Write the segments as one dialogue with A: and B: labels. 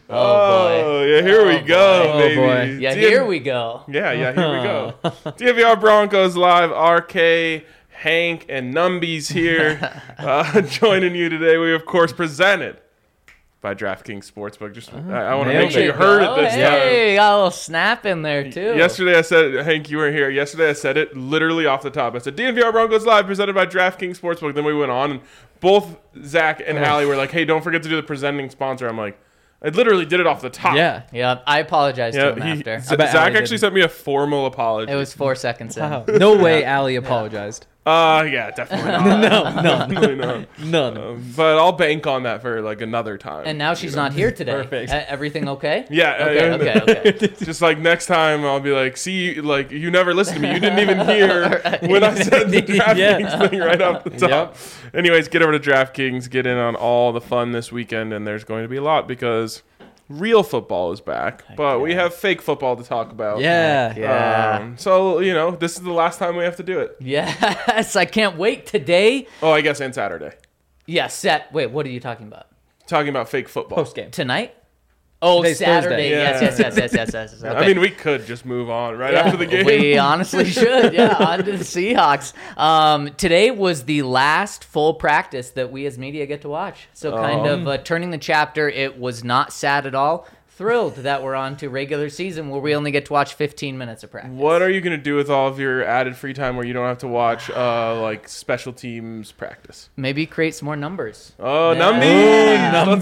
A: Oh,
B: yeah, here we go, baby.
C: Boy.
A: Yeah, here we go.
B: Yeah, here we go. DNVR Broncos Live, RK, Hank, and Numbies here joining you today. We, of course, presented by DraftKings Sportsbook. Just I want to make sure you heard it this time.
A: Hey, got a little snap in there, too.
B: Yesterday I said, Hank, you weren't here. Yesterday I said it literally off the top. I said, DNVR Broncos Live presented by DraftKings Sportsbook. Then we went on, and both Zach and Allie were like, hey, don't forget to do the presenting sponsor. I'm like, I literally did it off the top.
A: Yeah, I apologized to him after.
B: Zach actually sent me a formal apology.
A: It was 4 seconds in.
C: Wow. No way Allie apologized.
B: Yeah, definitely not. Definitely not.
C: None.
B: But I'll bank on that for like another time.
A: And now she's not here today.
C: Perfect.
A: Everything okay?
B: Yeah.
A: Okay.
B: Just like next time, I'll be like, see, like you never listened to me. You didn't even hear when I said the DraftKings thing right off the top. Anyways, get over to DraftKings, get in on all the fun this weekend, and there's going to be a lot because real football is back, but we have fake football to talk about.
C: Yeah.
B: So, this is the last time we have to do it.
A: Yes, I can't wait today.
B: Oh, I guess, and Saturday.
A: Yes, wait, what are you talking about?
B: Talking about fake football.
C: Post game.
A: Tonight? Oh,
C: Today's
A: Saturday.
C: Thursday.
A: Yes. Okay.
B: I mean, we could just move on after the game.
A: We honestly should. Yeah, on to the Seahawks. Today was the last full practice that we as media get to watch. So kind of turning the chapter. It was not sad at all. Thrilled that we're on to regular season where we only get to watch 15 minutes of practice.
B: What are you going to do with all of your added free time where you don't have to watch like special teams practice?
A: Maybe create some more numbers.
B: Oh, Numbies! Let's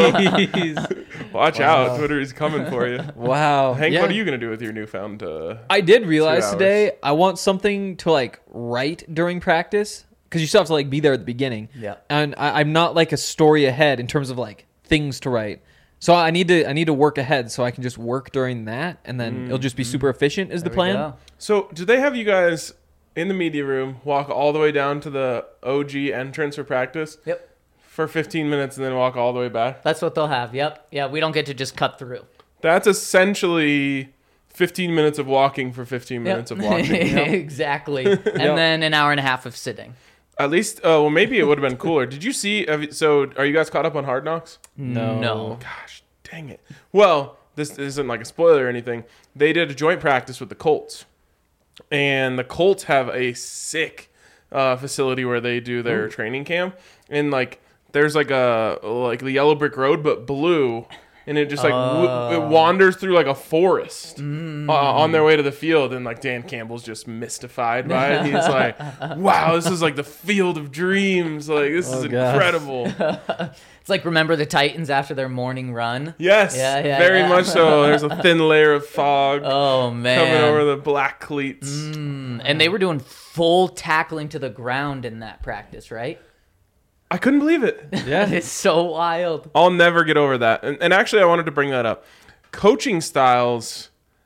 B: go. Watch out. Twitter is coming for you.
C: Wow.
B: Hank, what are you going to do with your newfound
C: I did realize
B: 2 hours?
C: today I want something to like write during practice because you still have to like be there at the beginning.
A: Yeah.
C: And I'm not like a story ahead in terms of like things to write. So I need to work ahead so I can just work during that and then it'll just be super efficient is the plan.
B: So, do they have you guys in the media room walk all the way down to the OG entrance for practice?
A: Yep.
B: For 15 minutes and then walk all the way back?
A: That's what they'll have. Yep. Yeah, we don't get to just cut through.
B: That's essentially 15 minutes of walking for 15 minutes of walking.
A: Exactly. And then an hour and a half of sitting.
B: At least, well, maybe it would have been cooler. Did you see? So, are you guys caught up on Hard Knocks?
A: No.
B: Gosh, dang it. Well, this isn't like a spoiler or anything. They did a joint practice with the Colts. And the Colts have a sick facility where they do their training camp. And, like, there's like the yellow brick road, but blue. And it just like it wanders through like a forest on their way to the field, and like Dan Campbell's just mystified by it. He's like, "Wow, this is like the field of dreams. Like this is incredible."
A: It's like remember the Titans after their morning run.
B: Yes, very much so. There's a thin layer of fog.
A: Oh man,
B: coming over the black cleats.
A: And they were doing full tackling to the ground in that practice, right?
B: I couldn't believe it.
C: Yeah.
A: It's so wild.
B: I'll never get over that. And actually, I wanted to bring that up. Coaching styles,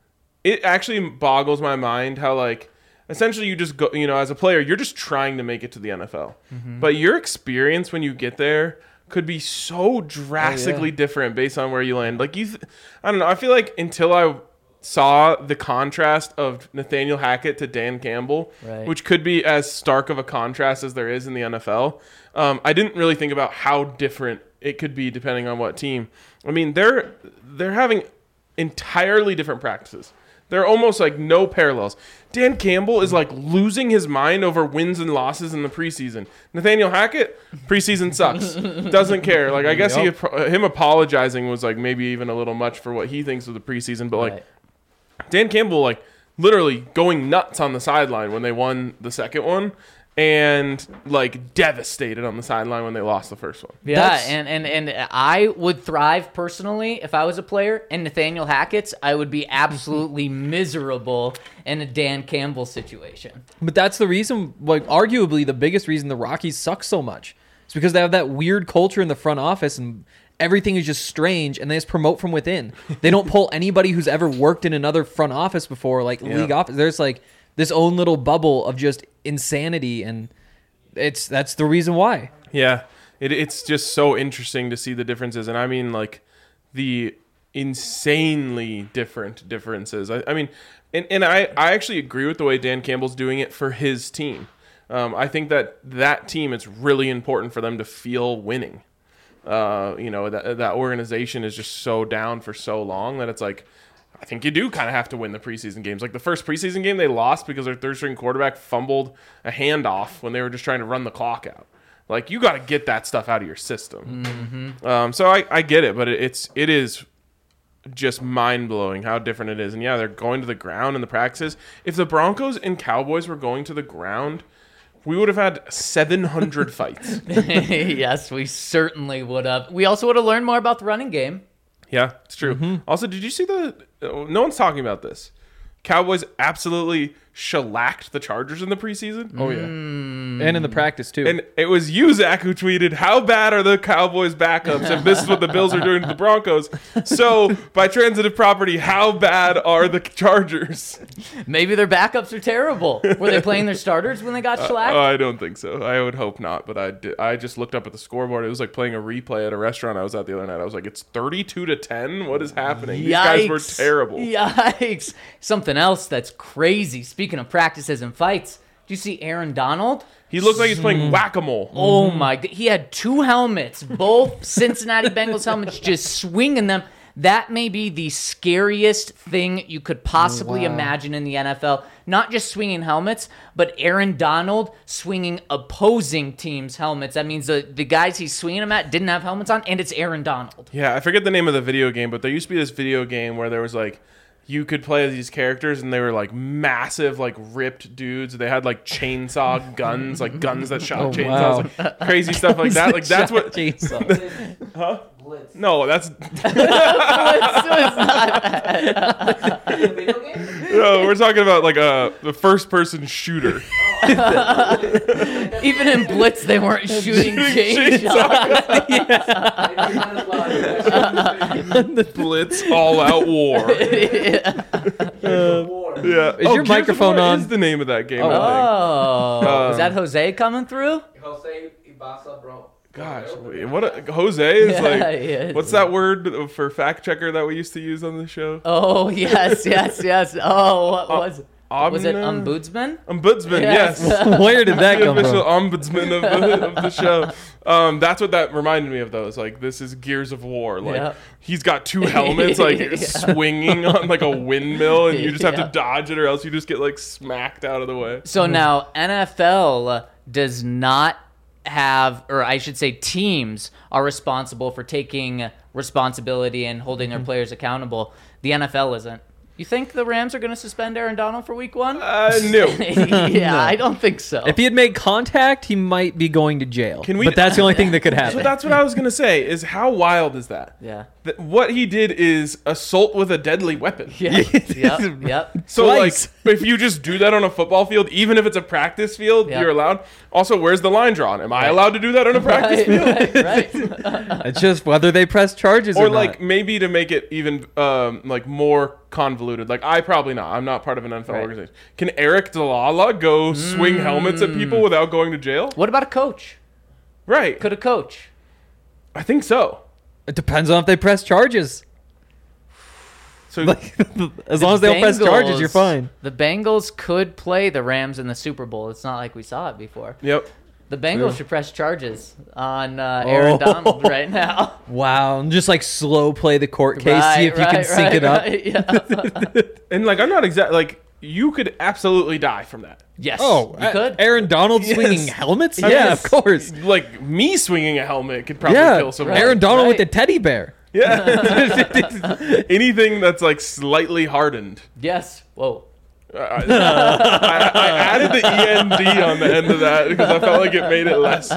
B: it actually boggles my mind how, like, essentially you just go, as a player, you're just trying to make it to the NFL. But your experience when you get there could be so drastically different based on where you land. Like, I don't know. I feel like until I saw the contrast of Nathaniel Hackett to Dan Campbell, which could be as stark of a contrast as there is in the NFL, I didn't really think about how different it could be depending on what team. I mean, they're having entirely different practices. They're almost like no parallels. Dan Campbell is like losing his mind over wins and losses in the preseason. Nathaniel Hackett, preseason sucks. Doesn't care. Like, I guess him apologizing was like maybe even a little much for what he thinks of the preseason, but like Dan Campbell, like, literally going nuts on the sideline when they won the second one, and like devastated on the sideline when they lost the first one.
A: Yeah, and I would thrive personally if I was a player. And Nathaniel Hackett's, I would be absolutely miserable in a Dan Campbell situation.
C: But that's the reason, like, arguably the biggest reason the Rockies suck so much. It's because they have that weird culture in the front office and everything is just strange, and they just promote from within. They don't pull anybody who's ever worked in another front office before, like league office. There's like this own little bubble of just insanity, and that's the reason why.
B: Yeah, it's just so interesting to see the differences, and I mean like the insanely different differences. I mean, and I actually agree with the way Dan Campbell's doing it for his team. I think that team, it's really important for them to feel winning. that organization is just so down for so long that it's like, I think you do kind of have to win the preseason games. Like the first preseason game they lost because their third string quarterback fumbled a handoff when they were just trying to run the clock out. Like you got to get that stuff out of your system.
A: Mm-hmm.
B: So I get it, but it is just mind blowing how different it is. And yeah, they're going to the ground in the practices. If the Broncos and Cowboys were going to the ground, we would have had 700 fights.
A: Yes, we certainly would have. We also would have learned more about the running game.
B: Yeah, it's true. Also, did you see no one's talking about this. Cowboys absolutely shellacked the Chargers in the preseason.
C: Oh, yeah. And in the practice, too.
B: And it was you, Zach, who tweeted, how bad are the Cowboys backups if this is what the Bills are doing to the Broncos? So, by transitive property, how bad are the Chargers?
A: Maybe their backups are terrible. Were they playing their starters when they got shellacked?
B: I don't think so. I would hope not, but I just looked up at the scoreboard. It was like playing a replay at a restaurant I was at the other night. I was like, it's 32-10? What is happening? These guys were terrible.
A: Yikes. Something else that's crazy. Speaking of practices and fights, did you see Aaron Donald?
B: He looked like he's playing whack-a-mole.
A: Oh my God. He had two helmets, both Cincinnati Bengals helmets, just swinging them. That may be the scariest thing you could possibly imagine in the NFL. Not just swinging helmets, but Aaron Donald swinging opposing teams' helmets. That means the guys he's swinging them at didn't have helmets on, and it's Aaron Donald.
B: Yeah, I forget the name of the video game, but there used to be this video game where there was like, you could play as these characters and they were like massive, like ripped dudes. They had like chainsaw guns, like guns that shot chainsaws, like crazy stuff like that. Like that's what. Huh?
D: Blitz.
B: No, that's.
D: Video game?
B: No, we're talking about like the first-person shooter.
A: Even in Blitz, they weren't shooting chainsaws.
B: Blitz all-out war. Yeah.
C: Is your
B: Gears of
C: microphone
B: War
C: on?
B: Is the name of that game? I
A: Oh, is that Jose coming through?
D: Jose Ibasa, bro.
B: Gosh, Jose is
A: Yeah,
B: like.
A: he is.
B: What's that word for fact checker that we used to use on the show?
A: Oh, yes. Oh, what was it? Was it
B: Ombudsman? Ombudsman,
A: Yes.
B: yes.
C: Where did that
B: The
C: come
B: official
C: from?
B: ombudsman of the show. That's what that reminded me of, though. It's like, this is Gears of War. Like,
A: Yeah.
B: he's got two helmets, like, swinging on, like, a windmill, and you just have to dodge it, or else you just get, like, smacked out of the way.
A: So now NFL does not have, or I should say teams are responsible for taking responsibility and holding their players accountable. The NFL isn't. You think the Rams are going to suspend Aaron Donald for week one?
B: No.
A: Yeah, I don't think so.
C: If he had made contact, he might be going to jail.
B: Can we-
C: But that's the only thing that could
B: So
C: happen.
B: that's what I was going to say, is how wild is that?
A: Yeah.
B: What he did is assault with a deadly weapon.
A: Yeah. Yep.
B: So,
C: Twice.
B: like, if you just do that on a football field, even if it's a practice field,
A: Yeah.
B: you're allowed. Also, where's the line drawn? Am I allowed to do that on a practice field?
A: Right.
C: It's just whether they press charges or
B: Or,
C: not.
B: like, maybe to make it even, like, more convoluted. Like, probably not. I'm not part of an NFL
A: Right.
B: organization. Can Eric Dalala go swing helmets at people without going to jail?
A: What about a coach?
B: Right.
A: Could a coach?
B: I think so.
C: It depends on if they press charges.
B: So,
C: As long as they don't press charges, you're fine.
A: The Bengals could play the Rams in the Super Bowl. It's not like we saw it before.
B: yep.
A: The Bengals should press charges on Aaron Donald right now.
C: Wow. And just like slow play the court case, see if you can sync it up.
A: Yeah.
B: And, like, I'm not exact. Like, you could absolutely die from that.
A: Yes.
C: Oh,
A: you could.
C: Aaron Donald swinging helmets? Yeah, of course.
B: Like, me swinging a helmet could probably
C: Yeah,
B: kill someone.
C: Aaron Donald with
A: Right.
C: the teddy bear.
B: Yeah. Anything that's, like, slightly hardened.
A: Yes. Whoa.
B: I added the END on the end of that because I felt like it made it less.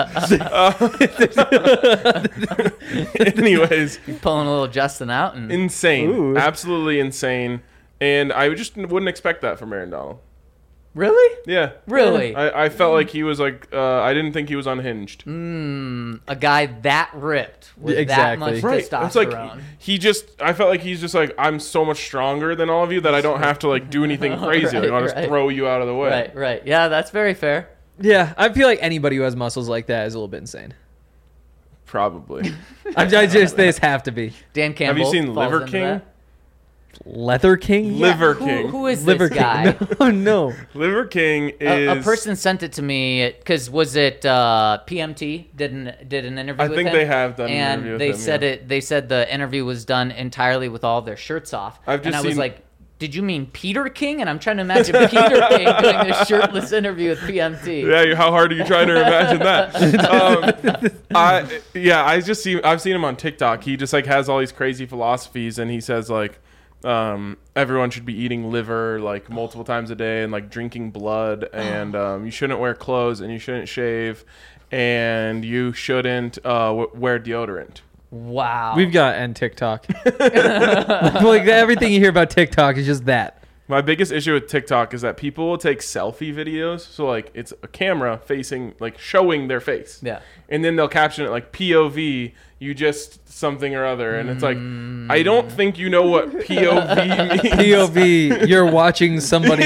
B: Anyways,
A: Pulling a little Justin out and
B: insane.
C: Ooh.
B: Absolutely insane. And I just wouldn't expect that from Aaron Donald.
A: really,
B: Yeah.
A: really,
B: I felt like he was like, I didn't think he was unhinged.
A: a guy that ripped with that
C: Exactly.
A: much
B: Right.
A: testosterone.
B: It's like I felt like he's just like, I'm so much stronger than all of you that I don't have to like do anything crazy. Like, I'll just
A: Right.
B: throw you out of the way.
A: right. Yeah, that's very fair.
C: Yeah, I feel like anybody who has muscles like that is a little bit insane.
B: Probably.
C: I just they just have to be.
A: Dan Campbell.
B: Have you seen
A: falls
B: Liver
A: into
B: King?
A: that.
C: Leather King?
B: Liver King.
A: Who is
C: Liver
A: this
C: King.
A: guy?
C: No, no.
B: Liver King is
A: A person sent it to me because was it PMT did an interview
B: I
A: with
B: think
A: him?
B: they have done an
A: and
B: interview with
A: they
B: him,
A: said
B: yeah.
A: it. They said the interview was done entirely with all their shirts off.
B: I've just
A: and I was
B: seen-
A: like, did you mean Peter King? And I'm trying to imagine Peter King doing this shirtless interview with PMT.
B: Yeah, how hard are you trying to imagine that? I've seen him on TikTok. He just like has all these crazy philosophies, and he says like everyone should be eating liver like multiple times a day, and like drinking blood, and you shouldn't wear clothes, and you shouldn't shave, and you shouldn't wear deodorant.
A: Wow.
C: We've got end TikTok. Like everything you hear about TikTok is just that.
B: My biggest issue with TikTok is that people will take selfie videos. So like it's a camera facing like showing their face.
A: Yeah.
B: And then they'll caption it like POV, you just something or other. And it's like, I don't think you know what POV means.
C: POV, you're watching somebody.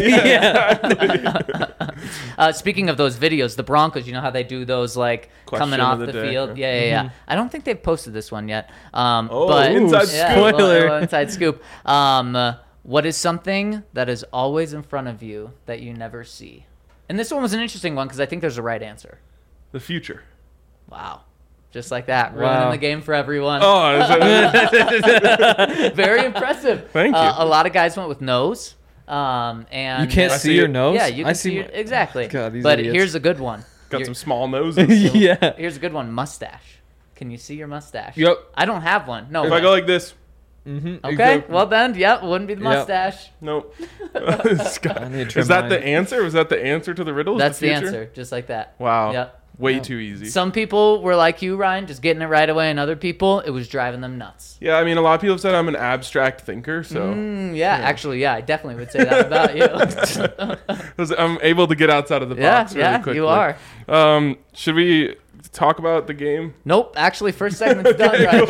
A: Speaking of those videos, the Broncos, you know how they do those like
B: Question
A: coming
B: of
A: off
B: the
A: the
B: day,
A: field?
B: yeah.
A: Yeah. I don't think they've posted this one yet.
B: inside
A: yeah,
B: scoop.
A: a little inside scoop. What is something that is always in front of you that you never see? And this one was an interesting one because I think there's a right answer.
B: The future.
A: Wow. Just like that. Ruining
C: Wow.
A: the game for everyone.
B: Oh, is it-
A: Very impressive.
B: Thank you.
A: A lot of guys went with nose. And
C: You can't
B: I
C: see
B: see
C: your
B: it.
C: nose?
A: Yeah, you can
C: I
A: see your, exactly.
C: God, these
A: but
C: idiots.
A: here's a good one.
B: got
A: Your-
B: some small noses.
C: Yeah.
A: Here's a good one. Mustache. Can you see your mustache?
B: Yep.
A: I don't have one. No.
B: If I go like this,
A: okay. Well then, yeah, wouldn't be the
C: Yep.
A: mustache.
B: nope. Scott,
C: I need to trim
B: is that
C: mine.
B: the answer? Was that the answer to the riddle? Is
A: That's the
B: future?
A: answer. Just like that.
B: Wow.
A: Yep.
B: Way too easy.
A: Some people were like you, Ryan, just getting it right away, and other people, it was driving them nuts.
B: Yeah, I mean, a lot of people have said I'm an abstract thinker, so
A: Actually, yeah, I definitely would say that about you.
B: I'm able to get outside of the box really quickly.
A: you are.
B: Should we talk about the game?
A: Nope, actually, first segment's done right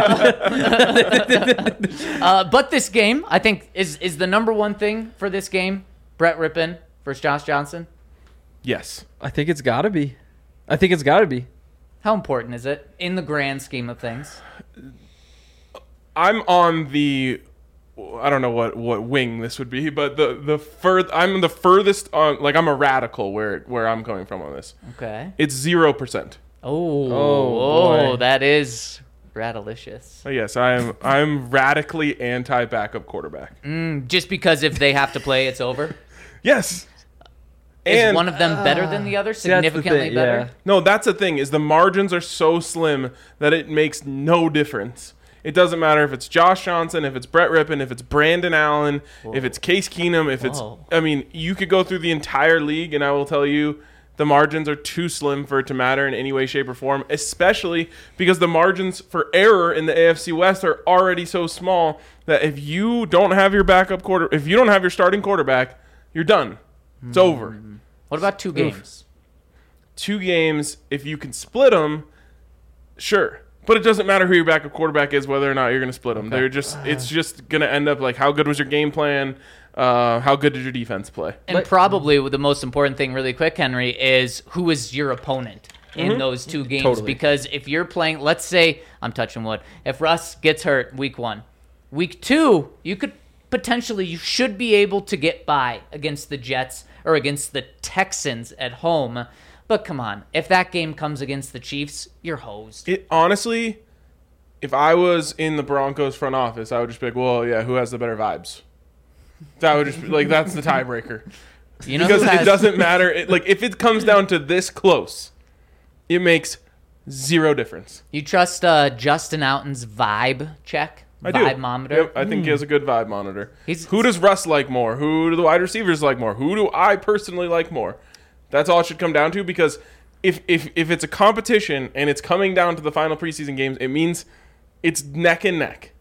A: now. But this game, I think, is the number one thing for this game. Brett Rippon versus Josh Johnson.
B: Yes.
C: I think it's got to be. I think it's got to be.
A: How important is it in the grand scheme of things?
B: I'm on the, I don't know what wing this would be, but I'm the furthest on, like I'm a radical where I'm coming from on this.
A: Okay.
B: It's 0%.
C: boy.
A: That is radalicious.
B: Yes, I'm radically anti-backup quarterback.
A: Just because if they have to play, it's over.
B: Yes.
A: Is
B: And
A: one of them better than the other?
C: See, that's the
A: Significantly
C: thing,
A: better?
C: yeah.
B: no, that's the thing, is the margins are so slim that it makes no difference. It doesn't matter if it's Josh Johnson, if it's Brett Rippon, if it's Brandon Allen, if it's Case Keenum, if it's,
A: Whoa.
B: I mean, you could go through the entire league and I will tell you the margins are too slim for it to matter in any way, shape, or form, especially because the margins for error in the AFC West are already so small that if you don't have your if you don't have your starting quarterback, you're done. It's over.
A: What about 2 games?
B: 2 games, if you can split them, sure. But it doesn't matter who your backup quarterback is, whether or not you're going to split them. They're just, it's just going to end up like, how good was your game plan? How good did your defense play?
A: And probably the most important thing, really quick, Henry, is who is your opponent in those 2 games.
C: Totally.
A: Because if you're playing, let's say, I'm touching wood, if Russ gets hurt week 1, week 2, you should be able to get by against the Jets or against the Texans at home. But come on, if that game comes against the Chiefs, you're hosed.
B: It honestly, if I was in the Broncos front office, I would just be like, well, yeah, who has the better vibes? That would just be like, that's the tiebreaker.
A: You know
B: Because
A: who
B: it
A: has-
B: doesn't matter. Like, if it comes down to this close, it makes 0 difference.
A: You trust Justin Outen's vibe check?
B: I do.
A: Vibe-mometer?
B: Yep, I think he has a good vibe monitor.
A: He's-
B: Who does Russ like more? Who do the wide receivers like more? Who do I personally like more? That's all it should come down to, because if it's a competition and it's coming down to the final preseason games, it means it's neck and neck.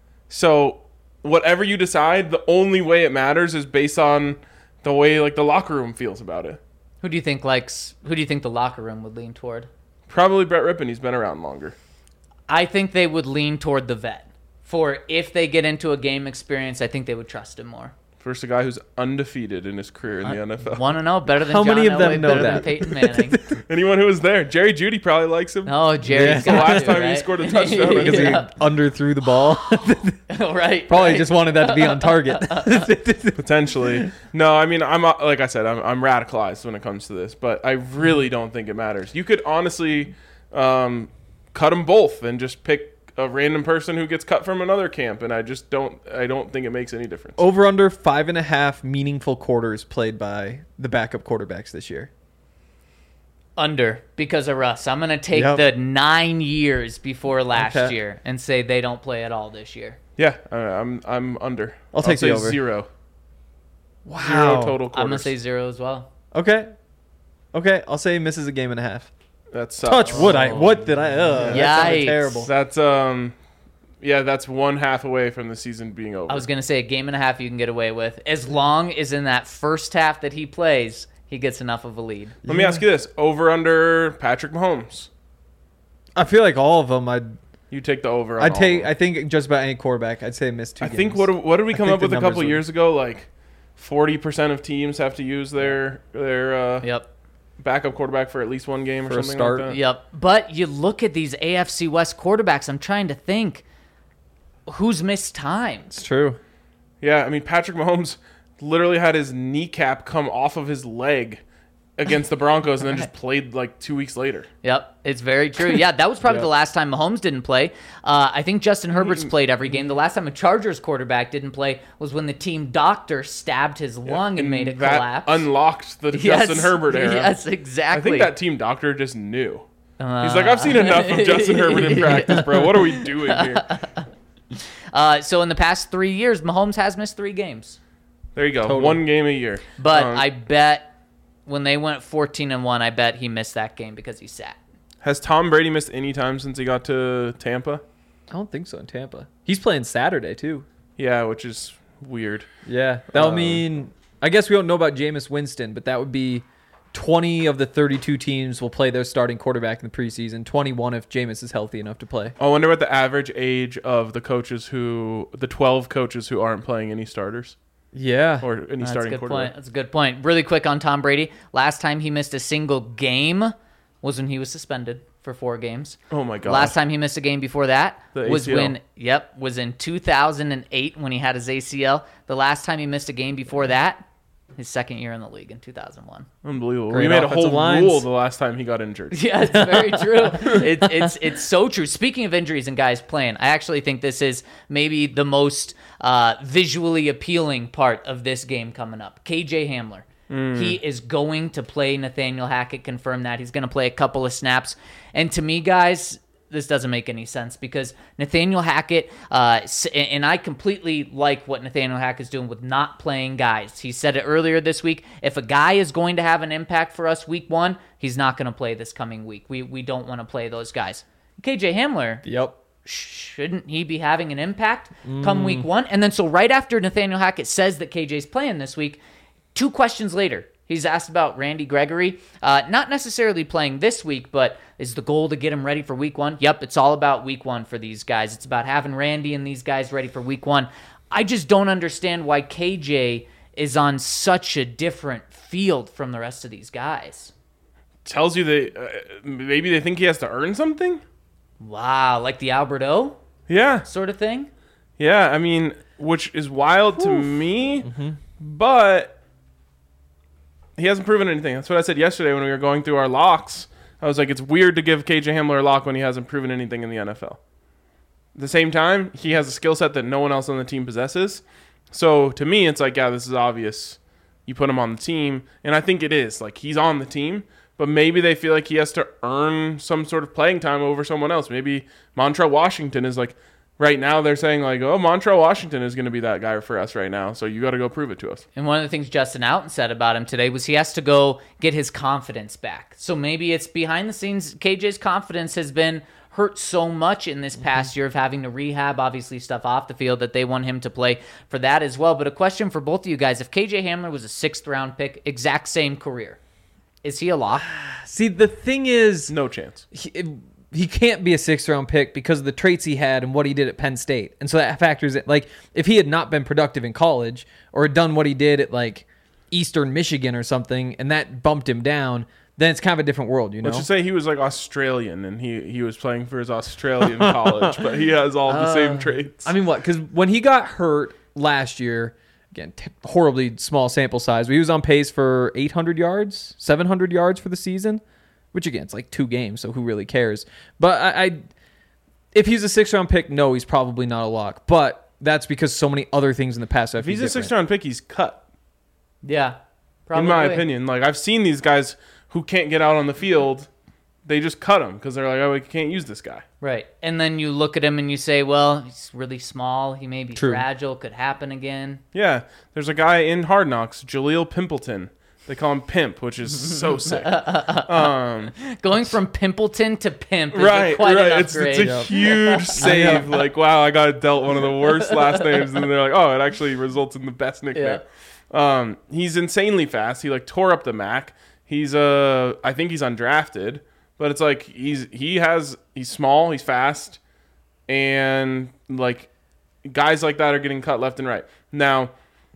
B: So whatever you decide, the only way it matters is based on the way like the locker room feels about it.
A: Who do you think the locker room would lean toward?
B: Probably Brett Rippon. He's been around longer.
A: I think they would lean toward the vet. For if they get into a game experience, I think they would trust him more.
B: Versus a guy who's undefeated in his career in the NFL.
A: 1-0, better than
C: How
A: John
C: many of them
A: Elway,
C: know
A: better
C: that?
A: than Peyton Manning.
B: Anyone who was there. Jerry Jeudy probably likes him.
A: Oh, Jerry's
C: Yeah.
A: got
B: The last
A: to,
B: time he
A: right?
B: scored a touchdown
C: Because he
A: Yeah.
C: underthrew the ball.
A: Right.
C: Probably
A: right.
C: just wanted that to be on target.
B: Potentially. No, I mean, like I said, I'm radicalized when it comes to this, but I really don't think it matters. You could honestly cut them both and just pick a random person who gets cut from another camp, and I don't think it makes any difference.
C: Over under 5.5 meaningful quarters played by the backup quarterbacks this year.
A: Under, because of Russ. I'm going to take
C: Yep.
A: the 9 years before last
C: Okay.
A: year and say they don't play at all this year.
B: Yeah, I'm under.
C: I'll take the
B: say
C: over.
B: 0.
C: Wow.
B: 0 total quarters.
A: I'm going to say 0 as well.
C: Okay, I'll say he misses a game and a half.
B: That's
C: Touch wood. What did I? That sounded
A: Yikes.
C: terrible.
B: That's that's 1/2 away from the season being over.
A: I was going to say a game and a half you can get away with. As long as in that first half that he plays, he gets enough of a lead.
B: Let me ask you this: over under Patrick Mahomes?
C: I feel like all of them.
B: You take the over. On
C: I'd
B: all
C: take.
B: of them.
C: I think just about any quarterback. I'd say miss 2
B: I
C: games.
B: think what did we come
C: think
B: up with
C: the
B: a couple
C: numbers
B: years ago? Like 40% of teams have to use their
A: Yep.
B: backup quarterback for at least one game or
C: For a
B: something
C: start.
B: like that.
A: Yep. But you look at these AFC West quarterbacks, I'm trying to think who's missed time.
C: It's true.
B: Yeah, I mean Patrick Mahomes literally had his kneecap come off of his leg against the Broncos and then just played like 2 weeks later.
A: Yep, it's very true. Yeah, that was probably
B: Yeah.
A: the last time Mahomes didn't play. I think Justin Herbert's played every game. The last time a Chargers quarterback didn't play was when the team doctor stabbed his lung and made it
B: that
A: collapse.
B: unlocked the
A: Yes,
B: Justin Herbert era.
A: Yes,
B: I
A: exactly.
B: think that team doctor just knew. He's like, I've seen enough of Justin Herbert in practice, bro. What are we doing here?
A: So in the past 3 years, Mahomes has missed 3 games.
B: There you go.
C: Total.
B: 1 game a year.
A: But I bet when they went 14-1, I bet he missed that game because he sat.
B: Has Tom Brady missed any time since he got to Tampa?
C: I don't think so in Tampa. He's playing Saturday too.
B: Yeah, which is weird.
C: Yeah, that'll mean. I guess we don't know about Jameis Winston, but that would be 20 of the 32 teams will play their starting quarterback in the preseason. 21 if Jameis is healthy enough to play.
B: I wonder what the average age of the 12 coaches who aren't playing any starters
C: Yeah.
B: or any
A: That's a
B: starting
A: good
B: quarterback.
A: point. That's a good point. Really quick on Tom Brady. Last time he missed a single game was when he was suspended for 4 games.
B: Oh my god.
A: Last time he missed a game before that
B: The
A: was
B: ACL.
A: was in 2008 when he had his ACL. The last time he missed a game before that, his second year in the league in 2001.
B: Unbelievable.
C: Great
B: We made a
C: offensive
B: whole
C: lines.
B: rule the last time he got injured.
A: Yeah, it's very true. It's so true. Speaking of injuries and guys playing, I actually think this is maybe the most visually appealing part of this game coming up. KJ Hamler. He is going to play. Nathaniel Hackett confirmed that. He's going to play a couple of snaps. And to me, guys, this doesn't make any sense because Nathaniel Hackett, and I completely like what Nathaniel Hackett is doing with not playing guys. He said it earlier this week. If a guy is going to have an impact for us week 1, he's not going to play this coming week. We don't want to play those guys. KJ Hamler,
C: Yep.
A: shouldn't he be having an impact come week 1? And then so right after Nathaniel Hackett says that KJ's playing this week, 2 questions later, he's asked about Randy Gregory. Not necessarily playing this week, but is the goal to get him ready for week 1? Yep, it's all about week 1 for these guys. It's about having Randy and these guys ready for week 1. I just don't understand why KJ is on such a different field from the rest of these guys.
B: Tells you maybe they think he has to earn something?
A: Wow, like the Albert O
B: Yeah.
A: sort of thing?
B: Yeah, I mean, which is wild to me, but he hasn't proven anything. That's what I said yesterday when we were going through our locks. I was like, it's weird to give KJ Hamler a lock when he hasn't proven anything in the NFL. At the same time, he has a skill set that no one else on the team possesses. So to me, it's like, yeah, this is obvious. You put him on the team, and I think it is. Like, he's on the team, but maybe they feel like he has to earn some sort of playing time over someone else. Maybe Montrell Washington is like, right now they're saying like, oh, Montrell Washington is going to be that guy for us right now, so you got to go prove it to us.
A: And one of the things Justin Outen said about him today was he has to go get his confidence back. So maybe it's behind the scenes. KJ's confidence has been hurt so much in this past year of having to rehab, obviously stuff off the field, that they want him to play for that as well. But a question for both of you guys. If KJ Hamler was a 6th round pick, exact same career, is he a lock?
C: See, the thing is,
B: No chance.
C: he can't be a 6th-round pick because of the traits he had and what he did at Penn State. And so that factors in. Like, if he had not been productive in college or had done what he did at, like, Eastern Michigan or something, and that bumped him down, then it's kind of a different world, you know?
B: Let's just say he was, like, Australian, and he was playing for his Australian college, but he has all the same traits.
C: I mean, what? Because when he got hurt last year, again, horribly small sample size, but he was on pace for 800 yards, 700 yards for the season. Which, again, it's like 2 games, so who really cares? But I if he's a 6th-round pick, no, he's probably not a lock. But that's because so many other things in the past have
B: If he's a 6th-round pick, he's cut.
A: Yeah, probably.
B: In my opinion. Like, I've seen these guys who can't get out on the field, they just cut him because they're like, oh, we can't use this guy.
A: Right. And then you look at him and you say, well, he's really small. He may be
C: True.
A: fragile. Could happen again.
B: Yeah, there's a guy in Hard Knocks, Jaleel Pimpleton. They call him Pimp, which is so sick.
A: Going from Pimpleton to Pimp is
B: Right.
A: quite an
B: It's
A: upgrade.
B: a huge save. Like, wow, I got dealt one of the worst last names, and they're like, oh, it actually results in the best nickname. He's insanely fast. He like tore up the MAC. He's I think he's undrafted, but it's like he's small, he's fast, and like guys like that are getting cut left and right. Now,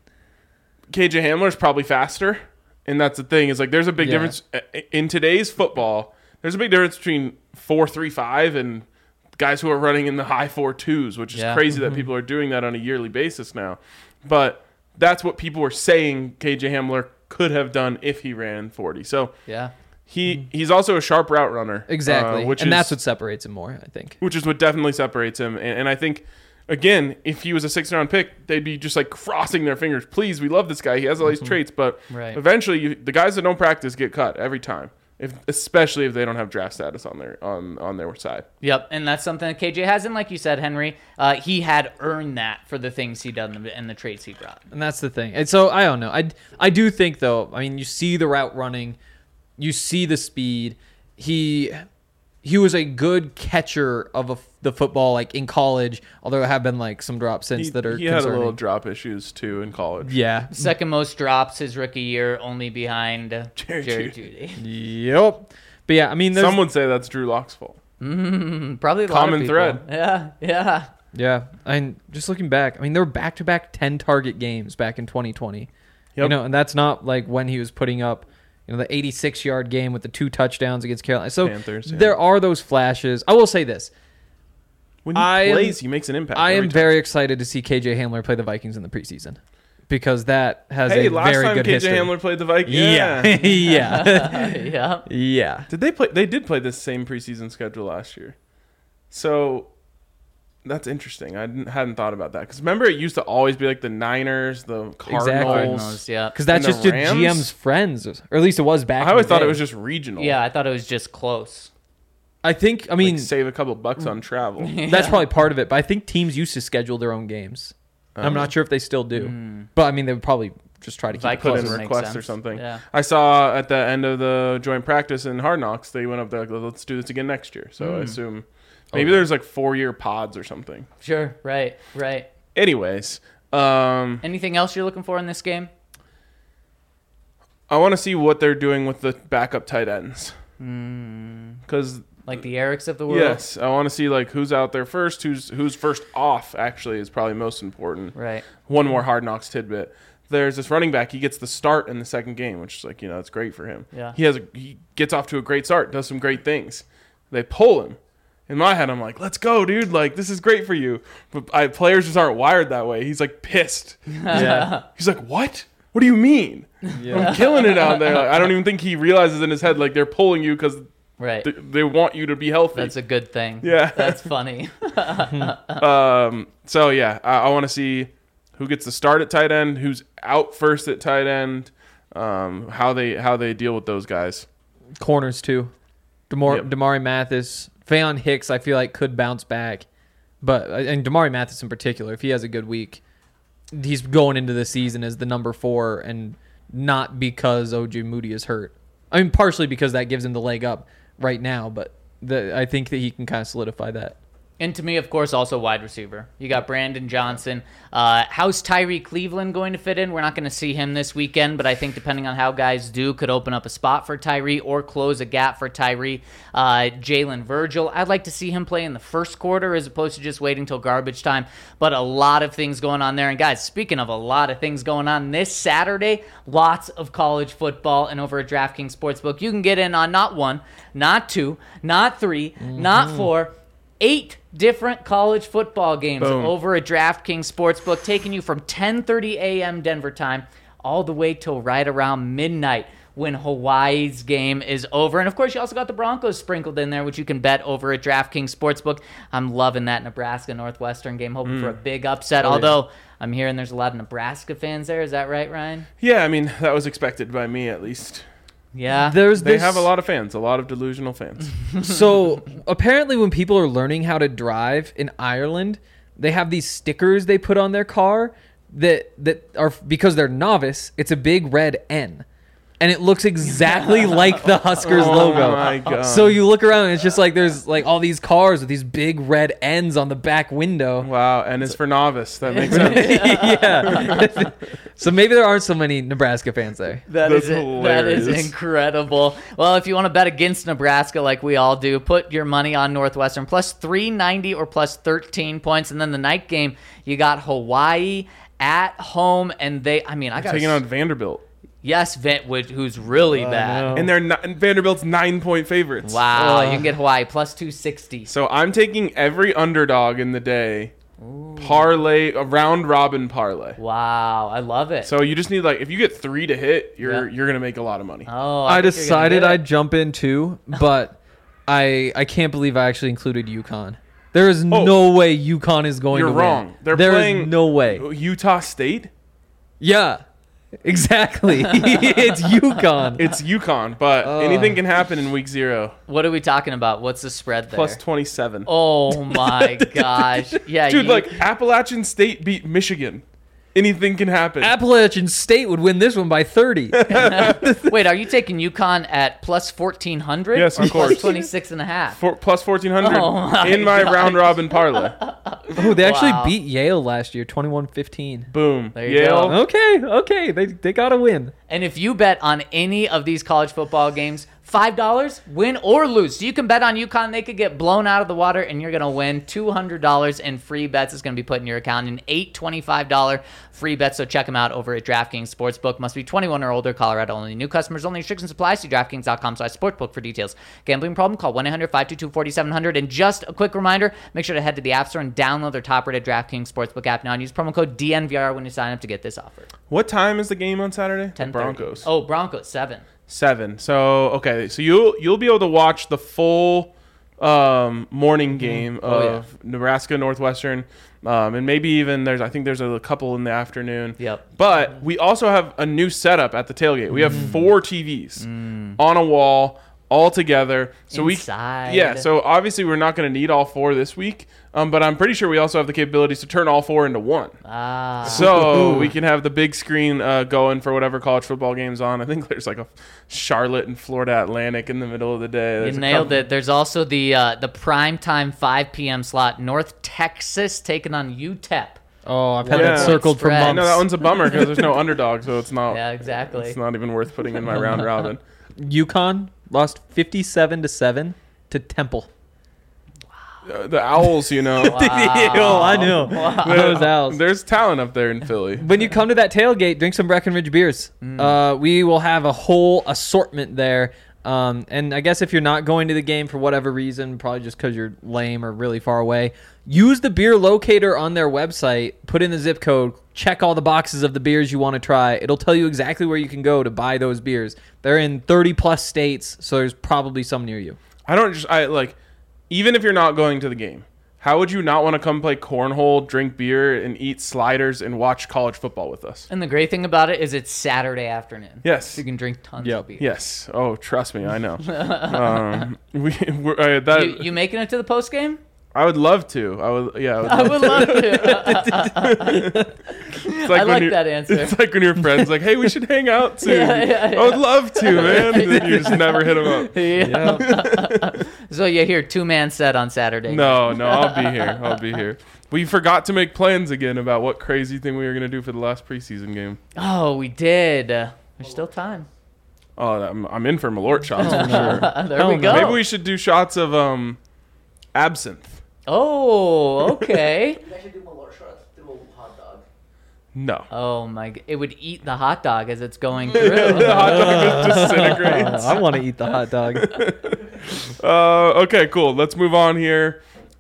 B: KJ Hamler's probably faster. And that's the thing, is like there's a big difference in today's football. There's a big difference between 4.35 and guys who are running in the high 4.2s, which is crazy that people are doing that on a yearly basis now. But that's what people were saying KJ Hamler could have done if he ran 40. So
A: Yeah.
B: he's also a sharp route runner.
C: Exactly. That's what separates him more, I think.
B: Which is what definitely separates him. And I think, again, if he was a 6th-round pick, they'd be just like crossing their fingers. Please, we love this guy. He has all these traits, but eventually, the guys that don't practice get cut every time. Especially if they don't have draft status on their side.
A: Yep, and that's something that KJ has. And like you said, Henry, he had earned that for the things he done and the traits he brought.
C: And that's the thing. And so I don't know. I do think though. I mean, you see the route running, you see the speed. He was a good catcher of the football, like in college. Although there have been like some drops since that are
B: he
C: concerning.
B: had a little drop issues too in college.
C: Yeah.
A: Second most drops his rookie year, only behind Jerry Jeudy.
C: Yep. But yeah, I mean,
B: Some would say that's Drew Lock's fault.
A: Probably a lot
B: Common
A: of people.
B: thread.
A: Yeah.
C: Yeah, and just looking back, I mean, there were back-to-back 10-target games back in 2020.
B: Yep.
C: You know, and that's not like when he was putting up, you know, the 86-yard game with the 2 touchdowns against Carolina. So
B: Panthers,
C: there are those flashes. I will say this.
B: When he plays, he makes an impact.
C: I am
B: every time.
C: very excited to see KJ Hamler play the Vikings in the preseason because that has
B: Hey,
C: a
B: last
C: very
B: time
C: good
B: KJ
C: history.
B: Hamler played the Vikings.
C: Yeah. Yeah.
A: Yeah.
C: Yeah.
B: Did they play? They did play this same preseason schedule last year. So that's interesting. I hadn't thought about that because remember it used to always be like the Niners, the Cardinals.
A: Cardinals, yeah.
C: Because that's
B: And
C: just
B: the
C: your
B: Rams?
C: GM's friends, or at least it was back.
B: I always
C: in the
B: thought
C: day.
B: it was just regional.
A: Yeah, I thought it was just close.
C: I mean,
B: Like save a couple bucks on travel.
C: that's probably part of it. But I think teams used to schedule their own games. I'm not sure if they still do. But I mean, they would probably just try to keep it
A: Vikings
B: Put
C: close.
B: in
A: would make
B: requests or
A: sense.
B: something.
A: Yeah.
B: I saw at the end of the joint practice in Hard Knocks, they went up there like, let's do this again next year. So I assume maybe there's like 4-year pods or something.
A: Sure. Right.
B: Anyways,
A: Anything else you're looking for in this game?
B: I want to see what they're doing with the backup tight ends. Because
A: Like the Erics of the world?
B: yes, I want to see like who's out there first, who's first off. Actually, is probably most important.
A: Right.
B: One more Hard Knocks tidbit. There's this running back. He gets the start in the second game, which is like it's great for him.
A: Yeah.
B: He gets off to a great start, does some great things. They pull him. In my head, I'm like, let's go, dude. Like this is great for you. But players just aren't wired that way. He's like pissed.
C: Yeah.
B: He's like, what? What do you mean? I'm killing it out there. Like, I don't even think he realizes in his head like they're pulling you because
A: Right.
B: they want you to be healthy.
A: That's a good thing.
B: Yeah.
A: That's funny.
B: So yeah, I want to see who gets the start at tight end, who's out first at tight end, how they deal with those guys.
C: Corners too. Damari Mathis, Faion Hicks, I feel like could bounce back, but and Damari Mathis in particular, if he has a good week, he's going into the season as the number 4, and not because OJ Moody is hurt. I mean, partially because that gives him the leg up right now, but I think that he can kind of solidify that.
A: And to me, of course, also wide receiver. You got Brandon Johnson. How's Tyree Cleveland going to fit in? We're not going to see him this weekend, but I think depending on how guys do, could open up a spot for Tyree or close a gap for Tyree. Jalen Virgil, I'd like to see him play in the first quarter as opposed to just waiting till garbage time. But a lot of things going on there. And guys, speaking of a lot of things going on, this Saturday, lots of college football. And over at DraftKings Sportsbook, you can get in on not one, not two, not three, not four, 8 different college football games
B: Boom.
A: over at DraftKings Sportsbook, taking you from 10:30 a.m. Denver time all the way till right around midnight when Hawaii's game is over. And, of course, you also got the Broncos sprinkled in there, which you can bet over at DraftKings Sportsbook. I'm loving that Nebraska-Northwestern game, hoping for a big upset, although I'm hearing there's a lot of Nebraska fans there. Is that right, Ryan?
B: Yeah, I mean, that was expected by me at least.
A: Yeah.
B: They have a lot of fans, a lot of delusional fans.
C: So apparently when people are learning how to drive in Ireland, they have these stickers they put on their car that are, because they're novice, it's a big red N. And it looks exactly like the Huskers logo.
B: Oh my God.
C: So you look around and it's just like there's like all these cars with these big red N's on the back window.
B: Wow, and it's for novice. That makes sense.
C: Yeah. So maybe there aren't so many Nebraska fans there.
A: That
B: That's
A: is
B: hilarious.
A: incredible. Well, if you want to bet against Nebraska like we all do, put your money on Northwestern plus 390 or plus 13 points. And then the night game, you got Hawaii at home. And I got
B: Taking on Vanderbilt.
A: Yes, who's really bad.
B: And and Vanderbilt's 9-point favorites.
A: Wow, you can get Hawaii plus 260.
B: So I'm taking every underdog in the day. Parlay, a round robin parlay.
A: Wow, I love it.
B: So you just need if you get 3 to hit, you're gonna make a lot of money.
A: Oh,
C: I
A: think you're gonna
C: decided
A: get it.
C: I'd jump in too, but I can't believe I actually included UConn. There is no way UConn is going
B: You're
C: to win.
B: wrong. They're
C: There is
B: playing
C: no way.
B: Utah State.
C: Yeah, exactly. It's UConn.
B: It's UConn, but anything can happen in week 0.
A: What are we talking about? What's the spread there?
B: Plus 27.
A: Oh my gosh. Yeah,
B: Dude, Appalachian State beat Michigan. Anything can happen.
C: Appalachian State would win this one by 30.
A: Wait, are you taking UConn at plus 1,400?
B: Yes, of course.
A: Plus 26 and a half.
B: Plus 1,400
A: Oh my
B: in my
A: gosh.
B: round robin parlay.
C: Oh, they actually
A: Wow.
C: beat Yale last year, 21-15.
B: Boom.
A: There you
B: Yale.
A: go.
C: Okay, they got to win.
A: And if you bet on any of these college football games, $5, win or lose. So you can bet on UConn. They could get blown out of the water, and you're going to win $200 in free bets. It's going to be put in your account. An $825 free bet. So check them out over at DraftKings Sportsbook. Must be 21 or older. Colorado only. New customers only. Restrictions apply. See DraftKings.com/sportsbook for details. Gambling problem? Call 1-800-522-4700. And just a quick reminder, make sure to head to the App Store and download their top-rated DraftKings Sportsbook app now and use promo code DNVR when you sign up to get this offer.
B: What time is the game on Saturday?
A: 10:30.
B: Broncos.
A: Oh, Broncos, 7.
B: 7. So okay, so you'll be able to watch the full morning game of Nebraska Northwestern, and maybe even I think there's a couple in the afternoon.
A: Yep.
B: But we also have a new setup at the tailgate. We have 4 TVs on a wall all together. So
A: Inside.
B: So obviously we're not going to need all 4 this week. But I'm pretty sure we also have the capabilities to turn all 4 into 1. So we can have the big screen going for whatever college football game's on. I think there's a Charlotte and Florida Atlantic in the middle of the day.
A: You
B: There's a
A: nailed
B: couple-
A: it. There's also the primetime 5 p.m. slot. North Texas taking on UTEP.
C: Oh, I've had
B: Yeah.
C: that circled for
A: Spread.
C: months.
B: No, that one's a bummer because there's no underdog, so it's not.
A: Yeah, exactly.
B: It's not even worth putting in my round robin.
C: UConn lost 57-7 to Temple.
B: The Owls,
C: Oh, I know. Those Owls.
B: There's talent up there in Philly.
C: When you come to that tailgate, drink some Breckenridge beers. We will have a whole assortment there. And I guess if you're not going to the game for whatever reason, probably just because you're lame or really far away, use the beer locator on their website, put in the zip code, check all the boxes of the beers you want to try. It'll tell you exactly where you can go to buy those beers. They're in 30 plus states, so there's probably some near you.
B: Even if you're not going to the game, how would you not want to come play cornhole, drink beer, and eat sliders and watch college football with us?
A: And the great thing about it is it's Saturday afternoon.
B: Yes.
A: So you can drink tons
C: Yep.
A: of beer.
B: Yes. Oh, trust me, I know.
A: You making it to the post game?
B: I would love to. I would. Yeah.
A: I would love to.
B: It's
A: I
B: when
A: like
B: you're-
A: that answer.
B: It's like when your friends like, "Hey, we should hang out soon."
A: Yeah.
B: I would love to, man. And then you just never hit them up.
A: Yeah. So you hear 2-man set on Saturday.
B: No, I'll be here. I'll be here. We forgot to make plans again about what crazy thing we were gonna do for the last preseason game.
A: Oh, we did. There's still time.
B: Oh, I'm in for Malort shots for sure.
A: There we go.
B: Maybe we should do shots of absinthe.
A: Oh, okay.
D: You guys should do Malort shots through a hot dog.
B: No.
A: Oh my! It would eat the hot dog as it's going through.
B: The hot dog just disintegrates.
C: I want to eat the hot dog.
B: Okay, cool. Let's move on here.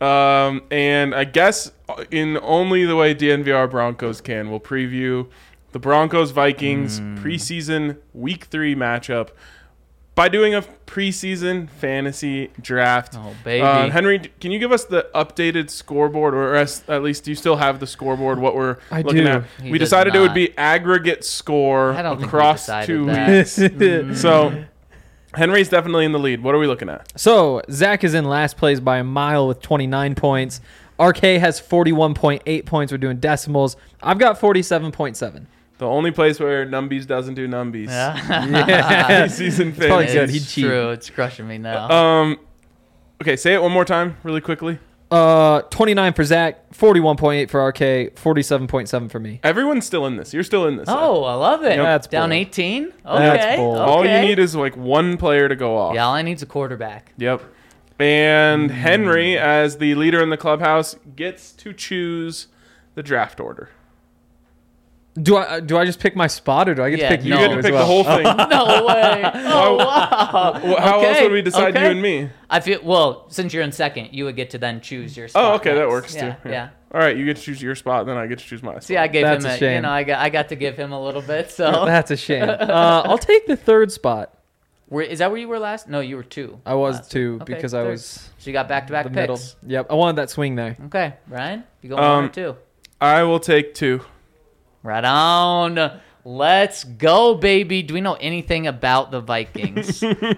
B: And I guess in only the way DNVR Broncos can, we'll preview the Broncos Vikings preseason Week 3 matchup by doing a preseason fantasy draft.
A: Oh, baby.
B: Henry, can you give us the updated scoreboard, or at least do you still have the scoreboard? What we're
C: I
B: looking
C: do.
B: at?
A: He
B: We
A: does
B: decided it would
A: not.
B: be aggregate score
A: I don't think we
B: across
A: decided
B: 2
A: that.
B: weeks. So Henry's definitely in the lead. What are we looking at?
C: So Zach is in last place by a mile with 29 points. RK has 41.8 points. We're doing decimals. I've got 47.7.
B: The only place where Numbies doesn't do Numbies.
C: Yeah.
B: Season
C: probably
B: fantasy.
C: good. He'd
A: It's
C: cheat.
A: true. It's crushing me now.
B: Okay, say it one more time, really quickly.
C: 29 for Zach, 41.8 for RK, 47.7 for me.
B: Everyone's still in this. You're still in this.
A: Oh, I love it.
B: Yep.
C: That's
A: Down
C: bold.
A: 18? Okay.
C: That's bold.
B: All you
A: okay.
B: need is like one player to go off.
A: Yeah, all I need is a quarterback.
B: Yep. And Henry, as the leader in the clubhouse, gets to choose the draft order.
C: Do I just pick my spot, or do I get
A: Yeah,
C: to pick
B: You
C: you?
B: get to
C: as
B: pick
C: well?
B: the whole thing.
A: No way. Oh, wow.
B: How else
A: Okay,
B: would we decide
A: okay.
B: you and me?
A: I feel well, since you're in second, you would get to then choose your spot.
B: Oh, okay, that
A: next.
B: works
A: Yeah,
B: too.
A: yeah.
B: All right, you get to choose your spot, then I get to choose my spot.
A: See, I gave
C: That's
A: him
C: a
A: you
C: shame.
A: know, I got to give him a little bit. So
C: That's a shame. I'll take the third spot.
A: is that where you were last? No, you were 2.
C: I was
A: last
C: two
A: week. Okay,
C: because I
A: third.
C: was
A: So you got back-to-back
C: the
A: picks.
C: middle. Yep, I wanted that swing there.
A: Okay, Ryan, you going 1 or 2?
B: I will take 2.
A: Right on. Let's go, baby. Do we know anything about the Vikings?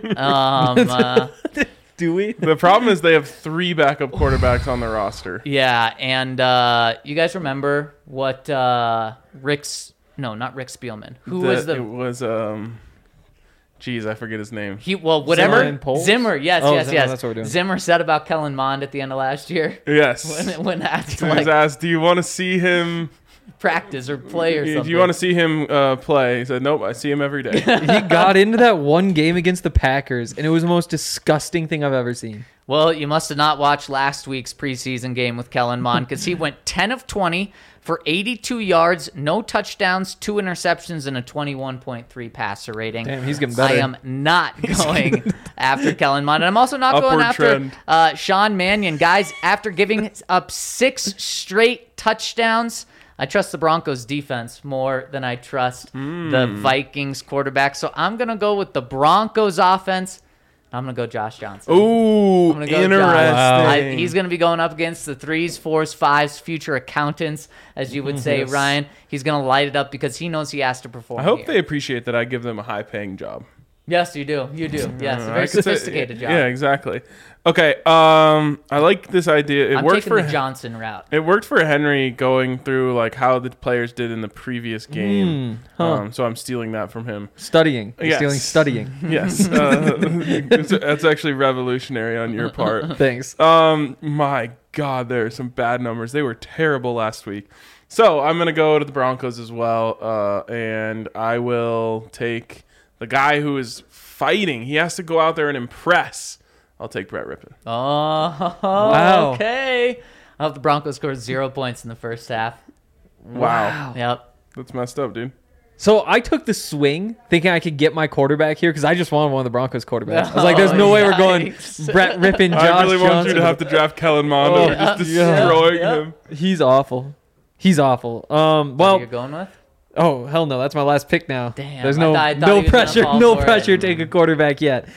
C: Do we?
B: The problem is they have 3 backup quarterbacks on their roster.
A: Yeah, and you guys remember what not Rick Spielman. Who was
B: It was geez, I forget his name.
A: whatever.
C: Zimmer and Poles?
A: Zimmer, yes,
C: Oh,
A: yes,
C: Zimmer,
A: yes.
C: that's what we're doing.
A: Zimmer said about Kellen Mond at the end of last year
B: Yes.
A: when asked
B: He was
A: like
B: asked, "Do you want to see him?
A: practice or play or something.
B: Do you want to see him play?" He said, "Nope, I see him every day."
C: He got into that one game against the Packers, and it was the most disgusting thing I've ever seen.
A: Well, you must have not watched last week's preseason game with Kellen Mond because he went 10 of 20 for 82 yards, no touchdowns, 2 interceptions, and a 21.3 passer rating.
C: Damn, he's getting better.
A: I am not going after Kellen Mond. And I'm also not going
B: Upward
A: after Sean Mannion. Guys, after giving up 6 straight touchdowns, I trust the Broncos defense more than I trust the Vikings quarterback. So I'm going to go with the Broncos offense. I'm going to go Josh Johnson.
B: Ooh,
A: I'm gonna go
B: interesting.
A: Josh. He's going to be going up against the 3s, 4s, 5s, future accountants, as you would say,
B: Yes.
A: Ryan. He's going to light it up because he knows he has to perform.
B: I hope
A: here.
B: they appreciate that I give them a high-paying job.
A: Yes, you do. You do. Yes, a
B: I
A: very
B: could say-
A: sophisticated job.
B: Yeah, exactly. Okay, I like this idea. It
A: I'm
B: worked
A: taking
B: for
A: the Johnson route.
B: It worked for Henry going through like how the players did in the previous game. So I'm stealing that from him.
C: Studying. You're
B: Yes.
C: stealing studying.
B: Yes, that's actually revolutionary on your part.
C: Thanks.
B: My God, there are some bad numbers. They were terrible last week. So I'm gonna go to the Broncos as well, and I will take the guy who is fighting. He has to go out there and impress. I'll take Brett Rippon.
A: Oh,
C: Wow.
A: okay. I hope the Broncos scored 0 points in the first half.
B: Wow.
A: Yep.
B: That's messed up, dude.
C: So I took the swing thinking I could get my quarterback here because I just wanted one of the Broncos quarterbacks. I was like, there's no way we're going
A: Yikes.
C: Brett Rippon, Josh
B: I really want
C: Johnson.
B: you to have to draft Kellen Mond
C: Oh,
B: over just
C: yeah.
B: destroying
A: Yeah.
B: him.
C: He's awful. He's awful.
A: What
C: Well,
A: you're going with?
C: oh hell no, that's my last pick now.
A: Damn,
C: There's
A: I
C: no
A: thought he
C: no
A: was gonna
C: pressure,
A: fall
C: no
A: for it.
C: pressure to take a quarterback yet.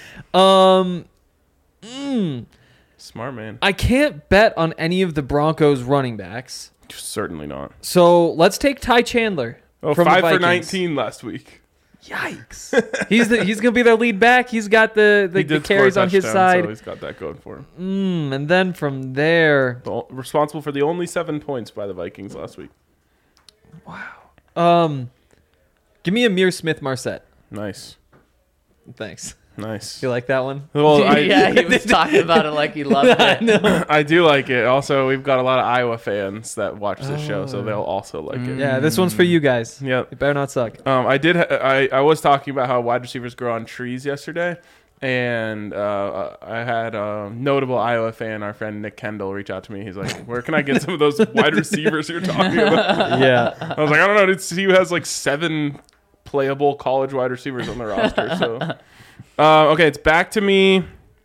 B: Smart man.
C: I can't bet on any of the Broncos running backs.
B: Certainly not.
C: So let's take Ty Chandler.
B: Oh,
C: from the
B: 5 for
C: Vikings.
B: 19 last week.
C: Yikes! He's gonna be their lead back. He's got the
B: He did score a
C: carries on his
B: touchdown,
C: side.
B: so he's got that going for him.
C: And then from there,
B: Responsible for the only 7 points by the Vikings last week.
C: give me Amir Smith-Marset.
B: Nice.
C: Thanks.
B: Nice.
C: You like that one?
B: Well,
A: Yeah, he was talking about it like he loved it.
B: I do like it. Also, we've got a lot of Iowa fans that watch this show, so they'll also like it.
C: Yeah, this one's for you guys.
B: Yep.
C: It better not suck.
B: I was talking about how wide receivers grow on trees yesterday, and I had a notable Iowa fan, our friend Nick Kendall, reach out to me. He's like, "Where can I get some of those wide receivers you're talking about?"
C: Yeah.
B: I was like, "I don't know. Dude, CU has like 7 playable college wide receivers on the roster." So, okay, it's back to me.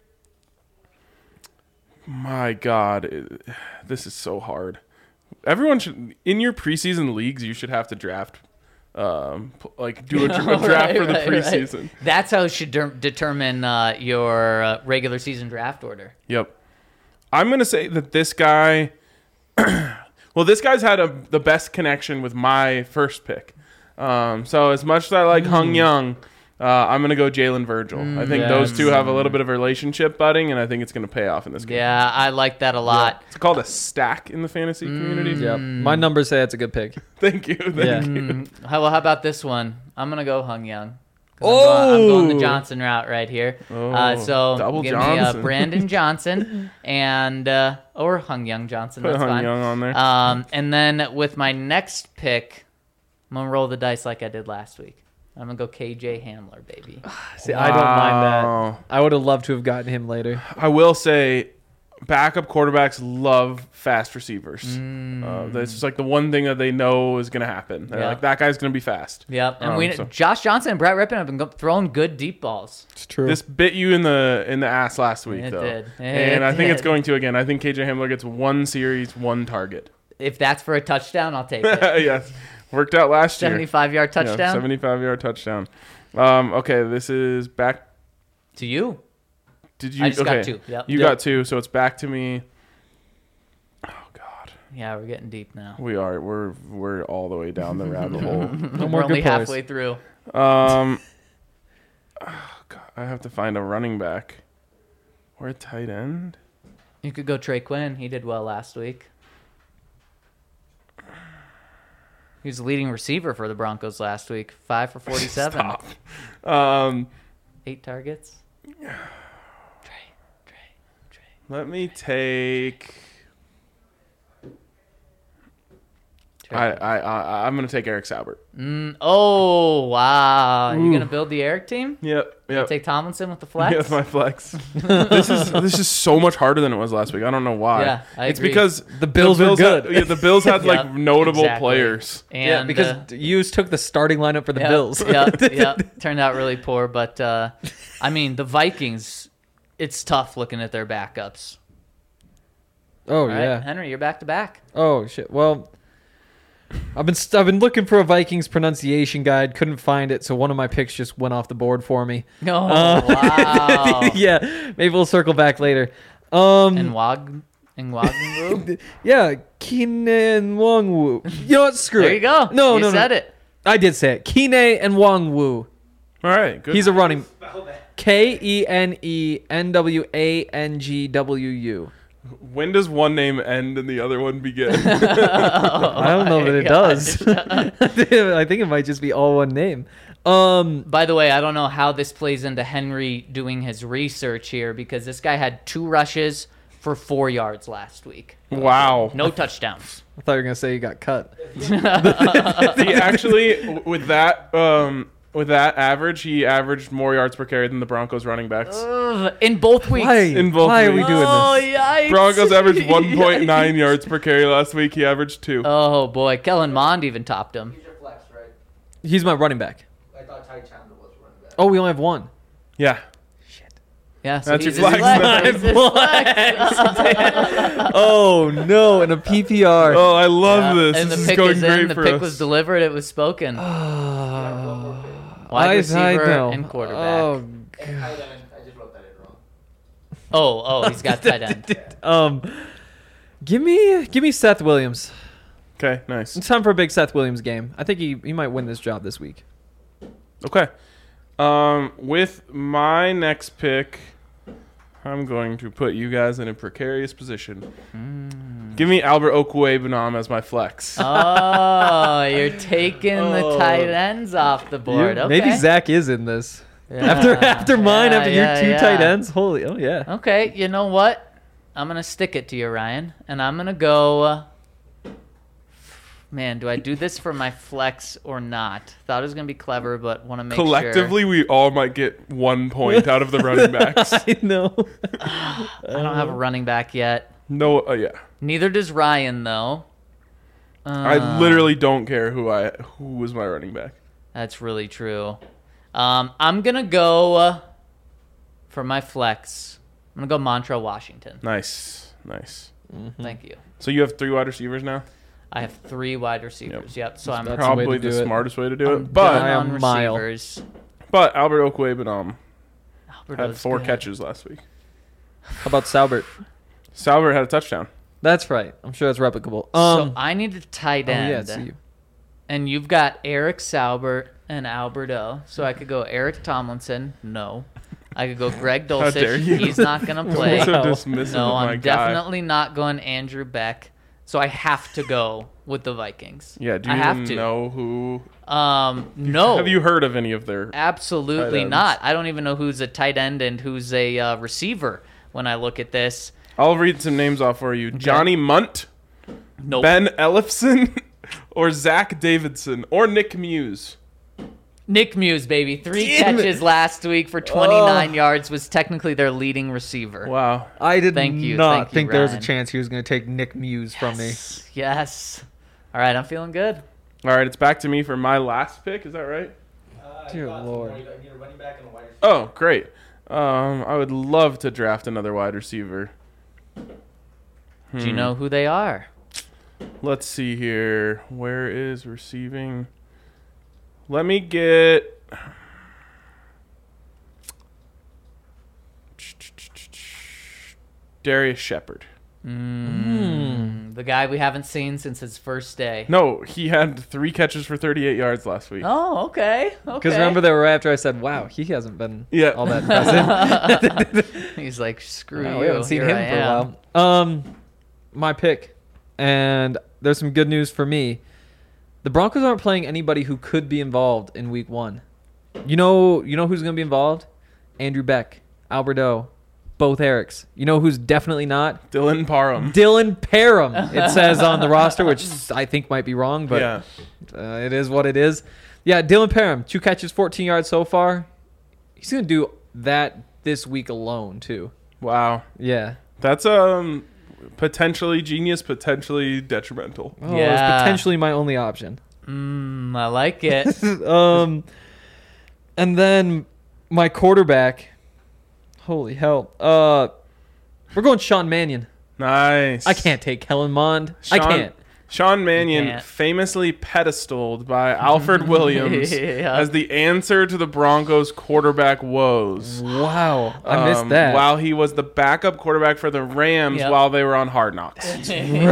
B: My God, this is so hard. Everyone should, in your preseason leagues, you should have to draft, do a draft for the preseason.
A: Right. That's how you should determine your regular season draft order.
B: Yep. I'm going to say that this guy, well, this guy's had the best connection with my first pick. So as much as I like Hung Young, I'm going to go Jalen Virgil. I think those two have a little bit of a relationship budding, and I think it's going to pay off in this game.
A: Yeah, I like that a lot.
B: It's called a stack in the fantasy community.
C: Yep. My numbers say it's a good pick.
B: Thank you. Thank you.
A: How about this one? I'm going to go Hung Young. I'm
C: Oh!
A: going the Johnson route right here. So
B: double
A: give
B: Johnson.
A: me Brandon Johnson and or Hung Young Johnson.
B: Put
A: That's
B: Hung
A: fine.
B: Young on there.
A: And then with my next pick, I'm going to roll the dice like I did last week. I'm going to go KJ Hamler, baby.
C: See, I don't mind
B: Wow.
C: that. I would have loved to have gotten him later.
B: I will say, backup quarterbacks love fast receivers. That's just like the one thing that they know is going to happen. They're
A: Yeah.
B: like, that guy's going to be fast.
A: Yep. And
B: So-
A: Josh Johnson and Brett Rippon have been throwing good deep balls.
C: It's true.
B: This bit you in the ass last week,
A: It
B: though.
A: did.
B: And
A: It
B: I think it's
A: did.
B: going to again. I think KJ Hamler gets 1 series, 1 target.
A: If that's for a touchdown, I'll take it.
B: Yes. Worked out last year.
A: 75-yard touchdown
B: 75-yard touchdown. Okay, this is back.
A: to you.
B: Did you?
A: I just
B: okay.
A: got 2. Yep.
B: You got 2, so it's back to me. Oh God,
A: Yeah, we're getting deep now.
B: we are. We're all the way down the rabbit hole.
C: No
A: We're
C: more
A: only
C: good players.
A: halfway through.
B: Oh, God, I have to find a running back or a tight end.
A: You could go Trey Quinn. He did well last week. He was the leading receiver for the Broncos last week. 5 for 47.
B: Stop.
A: 8 targets. Trey.
B: Let me take.
A: Trey.
B: I'm gonna take Eric Saubert.
A: Oh, wow. You going to build the Eric team?
B: Yep.
A: Take Tomlinson with the
B: Yeah,
A: flex?
B: that's my flex. this is so much harder than it was last week. I don't know why.
A: Yeah, I
B: it's
A: agree.
B: because
C: The Bills were good.
B: The Bills had like
A: Yep,
B: notable
A: exactly.
B: players.
A: And,
C: Yeah, because you took the starting lineup for the Bills.
A: Yeah. Turned out really poor. But, I mean, the Vikings, it's tough looking at their backups.
C: Oh,
A: All right,
C: yeah.
A: Henry, you're back to back.
C: Oh, shit. Well, I've been looking for a Vikings pronunciation guide. Couldn't find it, so one of my picks just went off the board for me.
A: Oh, wow.
C: Yeah, maybe we'll circle back later.
A: And Nwagwu?
C: Yeah, Keenan Wongwu. You know what? Screw it.
A: There you go.
C: No,
A: you said it.
C: I did say it. Keenan and Wongwu.
B: All right, good.
C: He's a running. KENENWANGWU.
B: When does one name end and the other one begin?
C: I don't know that it does. I think it might just be all one name.
A: By the way, I don't know how this plays into Henry doing his research here because this guy had 2 rushes for 4 yards last week.
B: Wow.
A: No touchdowns.
C: I thought you were gonna say you got cut.
B: He actually, with that average, he averaged more yards per carry than the Broncos running backs.
A: Ugh, in both weeks.
C: Why?
B: In both
C: Why are we
B: weeks.
C: doing
A: Oh,
C: this?
A: yikes.
B: Broncos averaged 1.9
A: Yikes.
B: yards per carry last week. He averaged 2.
A: Oh, boy. Kellen Mond even topped him.
D: He's your flex, right?
C: He's my running back.
D: I thought Ty Chandler was running back.
C: Oh, we only have one.
B: Yeah.
A: Yeah, so
B: That's
A: he's
B: your
A: his
B: flex.
A: He's his flex.
C: Oh no! In a PPR.
B: Oh, I love this.
A: And the
B: This is
A: pick
B: going
A: is
B: great
A: in. The
B: for
A: pick
B: us.
A: was delivered. It was spoken.
C: I
A: Wide receiver
C: know.
A: and quarterback.
C: Oh,
D: And tight end, I just wrote that in wrong.
A: Oh, he's got tight end.
C: give me Seth Williams.
B: Okay, nice.
C: It's time for a big Seth Williams game. I think he might win this job this week.
B: Okay. With my next pick, I'm going to put you guys in a precarious position. Give me Albert Okwuegbunam as my flex.
A: Oh, you're taking the tight ends off the board. Okay.
C: Maybe Zach is in this.
A: Yeah.
C: After mine,
A: Yeah,
C: after
A: yeah,
C: your two
A: yeah.
C: tight ends. Holy, oh yeah.
A: Okay, you know what? I'm going to stick it to you, Ryan. And I'm going to go... Man, do I do this for my flex or not? Thought it was going to be clever, but want to make
B: Collectively, we all might get 1 point out of the running backs.
C: I know.
A: I don't have a running back yet.
B: No, yeah.
A: Neither does Ryan, though.
B: I literally don't care who was my running back.
A: That's really true. I'm going to go for my flex. I'm going to go Montrell Washington.
B: Nice.
A: Thank you.
B: So you have 3 wide receivers now?
A: I have 3 wide receivers. Yep. So I'm
C: That's the way
B: Probably
C: to
B: the
C: do it.
B: smartest way to do
A: I'm
B: it. But
A: done on
C: a mile.
A: receivers.
B: Albert Okwuegbunam had
A: Alberto's
B: 4
A: good.
B: catches last week.
C: How about Salbert?
B: Salbert had a touchdown.
C: That's right. I'm sure that's replicable.
A: So I need a tight
C: oh,
A: end.
C: yeah, it's you.
A: And you've got Eric Saubert and Alberto. So I could go Eric Tomlinson. No. I could go Greg
B: How dare
A: Dulcich.
B: you.
A: He's not going to play.
B: So
C: Wow.
B: dismissive
A: No,
B: of my
A: I'm
B: guy.
A: definitely not going Andrew Beck. So I have to go with the Vikings.
B: Yeah, do
A: I
B: you
A: have
B: even
A: to.
B: know who?
A: No.
B: Have you heard of any of their?
A: Absolutely
B: tight ends?
A: not. I don't even know who's a tight end and who's a receiver when I look at this.
B: I'll read some names off for you. Johnny Munt,
A: Nope.
B: Ben Ellefson, or Zach Davidson, or Nick Muse.
A: Nick Muse, baby. 3
C: Damn it.
A: catches last week for 29 yards. Was technically their leading receiver.
B: Wow.
C: I did
A: Thank you,
C: not
A: thank you,
C: think there was a
A: Ryan.
C: chance he was going to take Nick Muse from me.
A: Yes. All right, I'm feeling good.
B: All right, it's back to me for my last pick. Is that right?
C: Dear Lord.
D: I need a running back and a wide receiver.
B: Oh, great. I would love to draft another wide receiver.
A: Do you know who they are?
B: Let's see here. Where is receiving? Let me get. Darius Shepard.
A: The guy we haven't seen since his first day.
B: No, he had 3 catches for 38 yards last week.
A: Oh, okay.
C: Because remember that were after I said, wow, he hasn't been
B: Yeah.
C: all that impressive.
A: He's like, screw
C: Wow,
A: you.
C: we haven't seen
A: Here
C: him
A: I
C: for a
A: am.
C: while. My pick, and there's some good news for me. The Broncos aren't playing anybody who could be involved in Week 1. You know who's going to be involved? Andrew Beck, Alberto, both Erics. You know who's definitely not?
B: Dylan Parham.
C: Dylan Parham. It says on the roster, which I think might be wrong, but
B: Yeah.
C: it is what it is. Yeah, Dylan Parham, 2 catches, 14 yards so far. He's going to do that this week alone, too.
B: Wow.
C: Yeah.
B: That's potentially genius, potentially detrimental.
C: Oh,
A: Yeah.
C: it's potentially my only option.
A: I like it.
C: And then my quarterback. Holy hell. We're going Sean Mannion.
B: Nice.
C: I can't take Kellen Mond. I can't.
B: Sean Mannion,
A: can't.
B: famously pedestaled by Alfred Williams
A: Yeah.
B: as the answer to the Broncos' quarterback woes.
C: Wow. I missed that.
B: While he was the backup quarterback for the Rams
A: Yep.
B: while they were on Hard Knocks.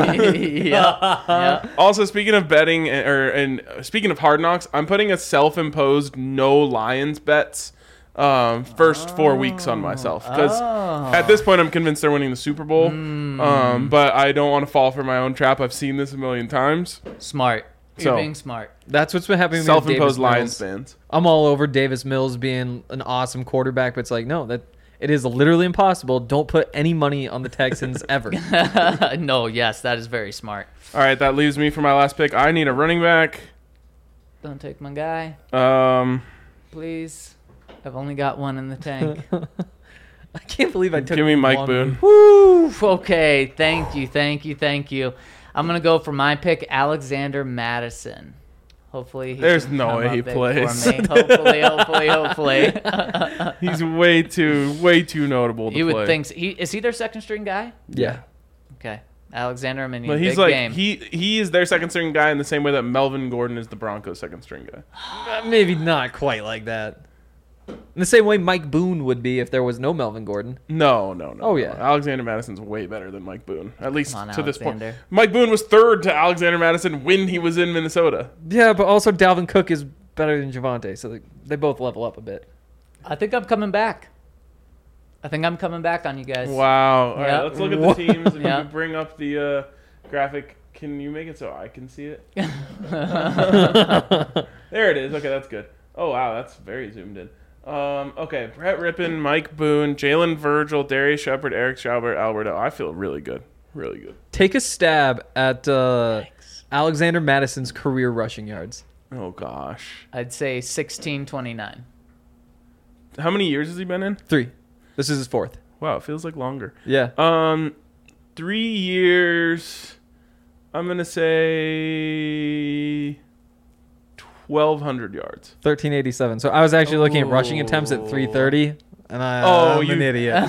A: yeah.
B: Also, speaking of betting, and speaking of Hard Knocks, I'm putting a self-imposed no Lions bets first 4 weeks on myself because at this point I'm convinced they're winning the Super Bowl. But I don't want to fall for my own trap. I've seen this a million times.
A: Smart. You're
B: So-
A: being smart.
C: That's what's been happening with Davis
B: Self-imposed Lions
C: Mills.
B: fans.
C: I'm all over Davis Mills being an awesome quarterback, but it's like, no, that it is literally impossible. Don't put any money on the Texans ever.
A: No, yes, that is very smart.
B: All right, that leaves me for my last pick. I need a running back.
A: Don't take my guy,
B: Um,
A: please. I've only got one in the tank.
C: I can't believe I took
B: give me Mike
C: one.
B: Boone.
A: Woo! Okay, thank you. I'm gonna go for my pick, Alexander Madison. Hopefully, he
B: There's
A: can
B: no
A: come
B: way
A: up
B: he
A: big
B: plays.
A: for me. Hopefully.
B: He's way too notable to
A: You
B: play.
A: would think. Is he their second string guy?
C: Yeah.
A: Okay, Alexander Minion.
B: But he's
A: big
B: like
A: game.
B: he is their second string guy in the same way that Melvin Gordon is the Broncos' second string guy.
C: Maybe not quite like that. In the same way Mike Boone would be if there was no Melvin Gordon.
B: No.
C: Oh, yeah.
B: Alexander Madison's way better than Mike Boone, at least
A: Come on,
B: to this point.
A: Alexander.
B: Mike Boone was third to Alexander Madison when he was in Minnesota.
C: Yeah, but also Dalvin Cook is better than Javante, so they both level up a bit.
A: I think I'm coming back. I think I'm coming back on you guys.
B: Wow. All
A: Yep.
B: right, let's look at the teams. If you
A: Yep.
B: could bring up the graphic, can you make it so I can see it? There it is. Okay, that's good. Oh, wow, that's very zoomed in. Okay, Brett Rippon, Mike Boone, Jalen Virgil, Darius Shepard, Eric Schaubert, Alberto. I feel really good. Really good.
C: Take a stab at Alexander Madison's career rushing yards.
B: Oh, gosh.
A: I'd say 1629.
B: How many years has he been in?
C: 3. This is his 4th.
B: Wow, it feels like longer.
C: Yeah.
B: 3 years. I'm going to say 1,200 yards.
C: 1387. So I was actually looking at rushing attempts at 330, and I'm an idiot.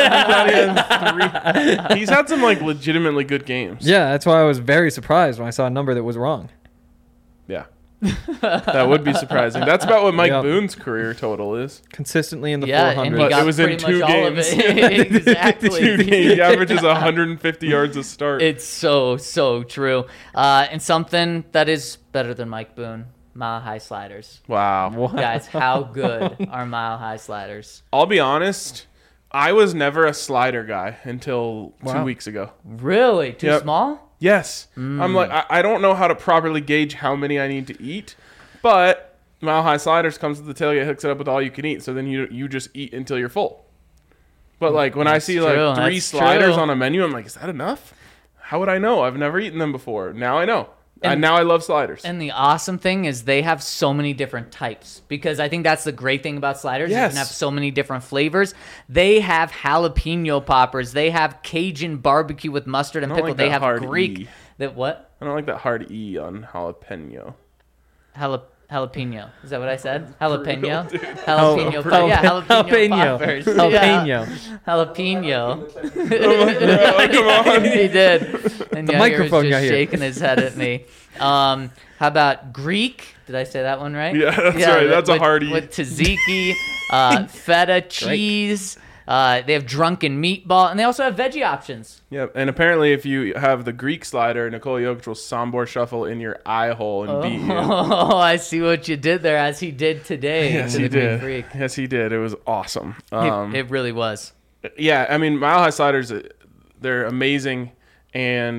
B: He's had some like legitimately good games.
C: Yeah, that's why I was very surprised when I saw a number that was wrong.
B: Yeah. That would be surprising. That's about what Mike
C: Yep.
B: Boone's career total is.
C: Consistently in the
A: Yeah,
C: 400s.
A: and he
B: But
A: got
B: it was in
A: pretty
B: 2
A: much all of
B: games.
A: it. Exactly.
B: He averages 150 yards a start.
A: It's so true. And something that is better than Mike Boone, mile high sliders.
B: Wow.
A: Guys, how good are mile high sliders?
B: I'll be honest. I was never a slider guy until 2
C: Wow.
B: weeks ago.
A: Really? Too
B: Yep.
A: small?
B: Yes. I'm like, I don't know how to properly gauge how many I need to eat, but Mile High Sliders comes with the tailgate, hooks it up with all you can eat, so then you just eat until you're full. But like when I see
A: true,
B: like 3
A: that's
B: sliders
A: true.
B: on a menu, I'm like, is that enough? How would I know? I've never eaten them before. Now I know.
A: And-
B: Now I love sliders.
A: And the awesome thing is they have so many different types, because I think that's the great thing about sliders. You
B: Yes.
A: can have so many different flavors. They have jalapeno poppers. They have Cajun barbecue with mustard and
B: I don't
A: pickle.
B: like
A: They
B: that
A: have
B: hard
A: Greek.
B: E.
A: That what?
B: I don't like that hard E on jalapeno.
A: Jalapeno. Is that what I said? Jalapeno?
B: dude.
A: Jalapeno. Yeah, jalapeno poppers.
C: Jalapeno.
A: Jalapeno.
B: Come on.
A: He did. And
C: The
A: Yair
C: microphone
A: was
C: got
A: just
C: here.
A: shaking his head at me. How about Greek? Did I say that one right?
B: Yeah, that's right. That's a
A: with,
B: hard E.
A: With tzatziki, feta cheese. They have drunken meatball, and they also have veggie options.
B: Yep. And apparently, if you have the Greek slider, Nikola Jokic will Sombor shuffle in your eye hole and beat you.
A: Oh, I see what you did there, as he did today.
B: Yes,
A: to
B: he
A: the Greek
B: did.
A: Freak.
B: Yes, he did. It was awesome.
A: It really was.
B: Yeah, I mean, Mile High Sliders, they're amazing, and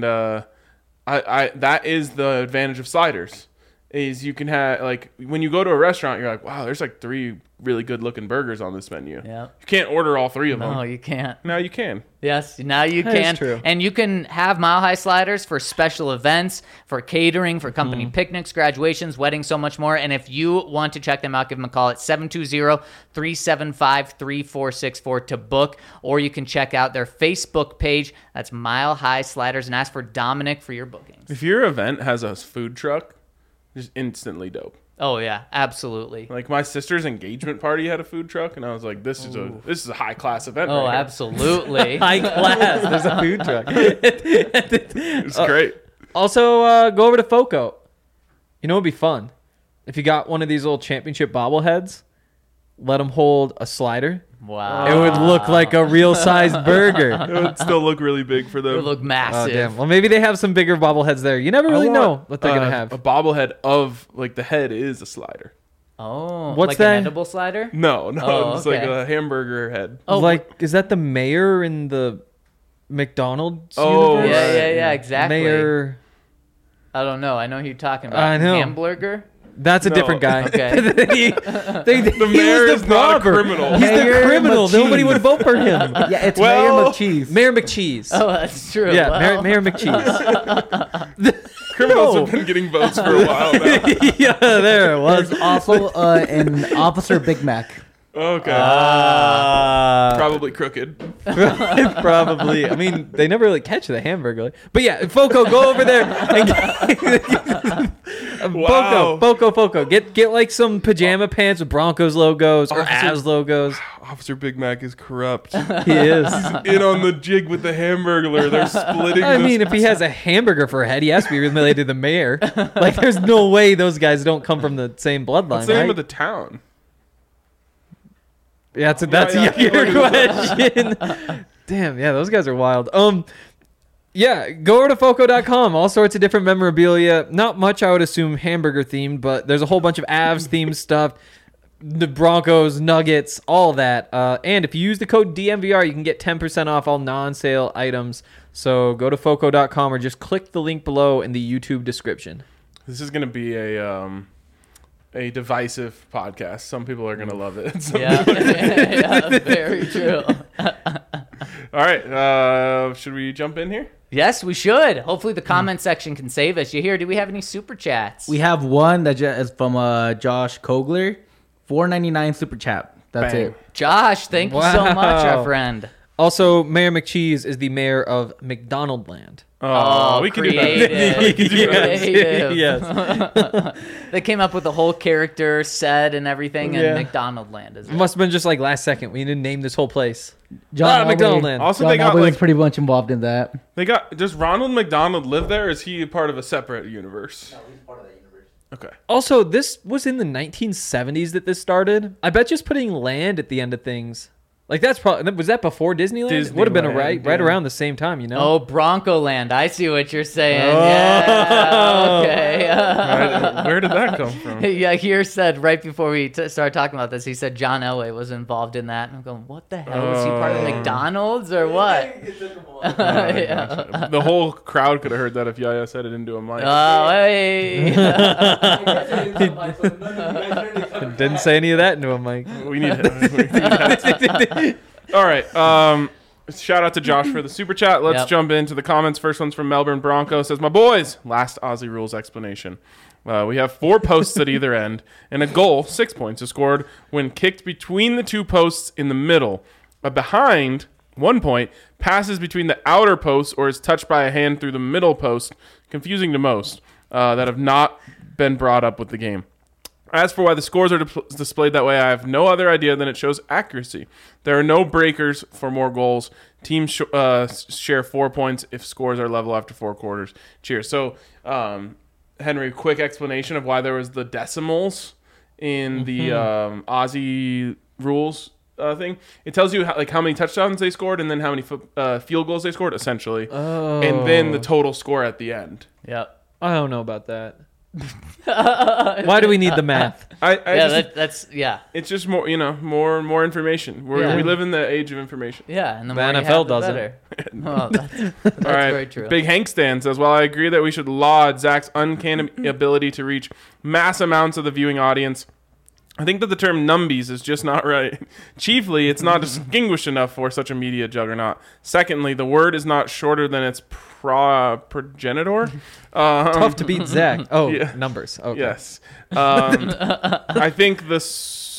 B: I that is the advantage of sliders. Is you can have, like, when you go to a restaurant, you're like, wow, there's like 3 really good looking burgers on this menu.
A: Yeah.
B: You can't order all 3 of
A: No,
B: them.
A: you can't.
B: Now you can.
A: Yes, now you
C: That is
A: can.
C: true.
A: And you can have Mile High Sliders for special events, for catering, for company picnics, graduations, weddings, so much more. And if you want to check them out, give them a call at 720-375-3464 to book. Or you can check out their Facebook page. That's Mile High Sliders, and ask for Dominic for your bookings.
B: If your event has a food truck, just instantly dope.
A: Oh, yeah, absolutely.
B: Like my sister's engagement party had a food truck, and I was like, this is a high class event.
A: Oh,
B: right here.
A: absolutely.
C: High class. There's a food truck.
B: It's great.
C: Also, go over to Foco. You know, it'd be fun if you got one of these little championship bobbleheads. Let them hold a slider.
A: Wow.
C: It would look like a real sized burger.
B: It would still look really big for
A: It would
B: them.
A: look
C: Oh
A: massive.
C: damn! Well, maybe they have some bigger bobbleheads there. You never really know what they're gonna have.
B: A bobblehead of, like, the head is a slider.
A: Oh,
C: What's
A: like
C: that?
A: an edible slider?
B: No,
A: Oh,
B: it's like
A: okay.
B: a hamburger head.
A: Oh,
C: Like, is that the mayor in the McDonald's
B: Oh,
C: universe?
A: yeah, exactly.
C: Mayor.
A: I don't know. I know who you're talking about.
C: I know.
A: Hamburger?
C: That's a
B: No.
C: the
B: mayor is not a criminal.
C: He's
E: Mayor
C: the criminal.
E: McCheese.
C: Nobody would vote for him.
E: Yeah, it's
B: Well-
E: Mayor McCheese.
C: Mayor McCheese.
A: Oh, that's true.
C: yeah,
A: Well,
C: Mayor McCheese.
B: Criminals
C: No.
B: have been getting votes for a while now.
C: Yeah, there it was.
E: There's also an Officer Big Mac.
B: Okay.
C: Uh,
B: Probably crooked.
C: Probably. I mean, they never really catch the hamburger. But yeah, Foco, go over there and
B: Wow.
C: Foco. Get like some pajama pants with Broncos logos or
B: Officer-
C: Avs logos.
B: Officer Big Mac is corrupt.
C: He is.
B: In on the jig with the hamburglar. They're splitting
C: I
B: this.
C: mean, if he has a hamburger for a head, he has to be related to the mayor. Like, there's no way those guys don't come from the same bloodline.
B: What's the name
C: right?
B: of the town?
C: Yeah, that's
B: yeah,
C: your question. Damn, yeah, those guys are wild. Yeah, go over to Foco.com. All sorts of different memorabilia. Not much, I would assume, hamburger themed, but there's a whole bunch of Avs themed stuff. The Broncos, Nuggets, all that. And if you use the code DMVR, you can get 10% off all non-sale items. So go to Foco.com or just click the link below in the YouTube description.
B: This is going to be a divisive podcast. Some people are going to love it.
A: Yeah, yeah, very true.
B: All right. Should we jump in here?
A: Yes, we should. Hopefully the comment section can save us. You hear? Do we have any super chats?
E: We have one that is from Josh Kogler, $4.99 super chat. That's
B: Bang.
E: it.
A: Josh, thank you so much, our friend.
C: Also, Mayor McCheese is the mayor of McDonaldland.
B: Oh, we can do
A: creative.
B: that. We can do that.
A: Creative.
C: Yes.
A: They came up with the whole character set and everything,
C: Yeah.
A: and McDonald Land is
C: It
A: it.
C: must have been just like last second. We didn't name this whole place.
E: John
C: McDonaldland.
B: Also,
E: John
B: they got
E: Elway was
B: like
E: pretty much involved in that.
B: does Ronald McDonald live there? Or is he part of a separate universe?
D: No, he's part of that universe.
B: Okay.
C: Also, this was in the 1970s that this started. I bet just putting land at the end of things. Like that's probably was that before Disneyland? It would have been right
B: Disneyland, yeah.
C: around the same time, you know.
A: Oh, Bronco Land. I see what you're saying.
C: Oh.
A: Yeah. Okay.
B: Where did that come from?
A: Yeah, here said right before we started talking about this, he said John Elway was involved in that. I'm going, what the hell? Is he part of
B: Oh.
A: McDonald's or what? Yeah.
B: The whole crowd could have heard that if Yaya said it into a mic.
A: Oh, hey.
C: Didn't say any of that into a mic.
B: We need him. All right. Shout out to Josh for the super chat. Let's
A: Yep.
B: jump into the comments. First one's from Melbourne Bronco. Says, my boys, last Aussie rules explanation. We have 4 posts at either end, and a goal, 6 points, is scored when kicked between the 2 posts in the middle. A behind, 1 point, passes between the outer posts or is touched by a hand through the middle post, confusing to most, that have not been brought up with the game. As for why the scores are displayed that way, I have no other idea than it shows accuracy. There are no breakers for more goals. Teams share 4 points if scores are level after 4 quarters. Cheers. So, Henry, quick explanation of why there was the decimals in the Aussie rules thing. It tells you how many touchdowns they scored and then how many field goals they scored, essentially.
C: Oh.
B: And then the total score at the end.
A: Yep.
C: I don't know about that. Why do we need the math?
A: That's yeah.
B: It's just more, more information.
A: Yeah.
B: We live in the age of information.
A: Yeah, and the
C: The
A: more you
C: NFL
A: have, the
C: doesn't.
A: better. Well, that's
B: All right.
A: very true.
B: Big Hank Stan says, while I agree that we should laud Zach's uncanny ability to reach mass amounts of the viewing audience, I think that the term numbies is just not right. Chiefly, it's not distinguished enough for such a media juggernaut. Secondly, the word is not shorter than its progenitor.
C: Tough to beat Zach. Oh,
B: Yeah.
C: numbers. Okay.
B: Yes. I think the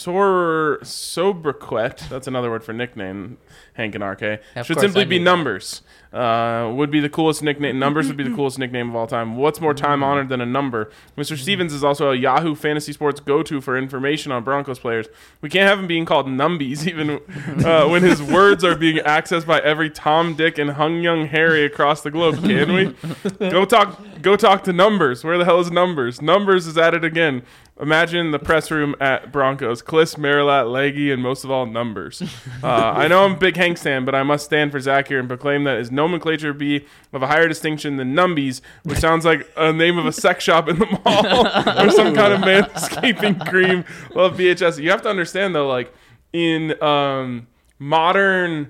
B: sobriquet, that's another word for nickname, Hank and RK,
A: Of
B: should
A: course,
B: simply
A: I
B: be
A: knew that.
B: numbers. Would be the coolest nickname. Numbers would be the coolest nickname of all time. What's more time honored than a number? Mr. Stevens is also a Yahoo Fantasy Sports go-to for information on Broncos players. We can't have him being called numbies even when his words are being accessed by every Tom, Dick, and Hung Young Harry across the globe, can we? Go talk to Numbers. Where the hell is Numbers? Numbers is at it again. Imagine the press room at Broncos. Kliss, Marilat, Leggy, and most of all, Numbers. I know I'm a big Hank stan, but I must stand for Zach here and proclaim that his nomenclature be of a higher distinction than Numbies, which sounds like a name of a sex shop in the mall or some kind of manscaping cream. Love VHS. You have to understand, though, like, in modern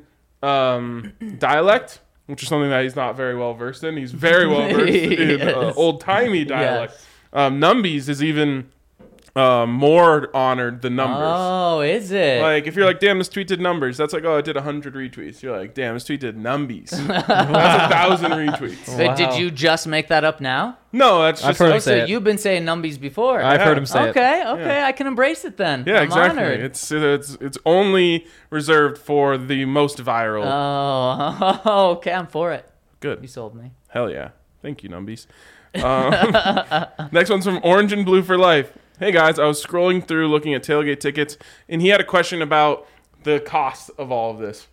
B: dialect, which is something that he's not very well versed in, he's very well versed in
A: Yes.
B: old-timey dialect.
A: Yes.
B: Numbies is even more honored than Numbers.
A: Oh, is it?
B: Like, if you're like, damn, this tweet did Numbers, that's like, oh, it did 100 retweets. You're like, damn, this tweet did Numbies. That's 1,000 retweets.
A: Wait,
C: Wow.
A: did you just make that up now?
B: No, that's
C: I've
B: just...
C: heard
A: Oh,
C: him
A: so
C: say it.
A: you've been saying numbies before.
C: I've heard him say it.
A: Okay,
B: Yeah.
A: I can embrace it then.
B: yeah,
A: I'm
B: exactly.
A: honored.
B: It's only reserved for the most viral.
A: Oh, okay, I'm for it. You
B: Good.
A: sold me.
B: Hell yeah. Thank you, Numbies. Next one's from Orange and Blue for Life. Hey guys, I was scrolling through looking at tailgate tickets, and he had a question about the cost of all of this.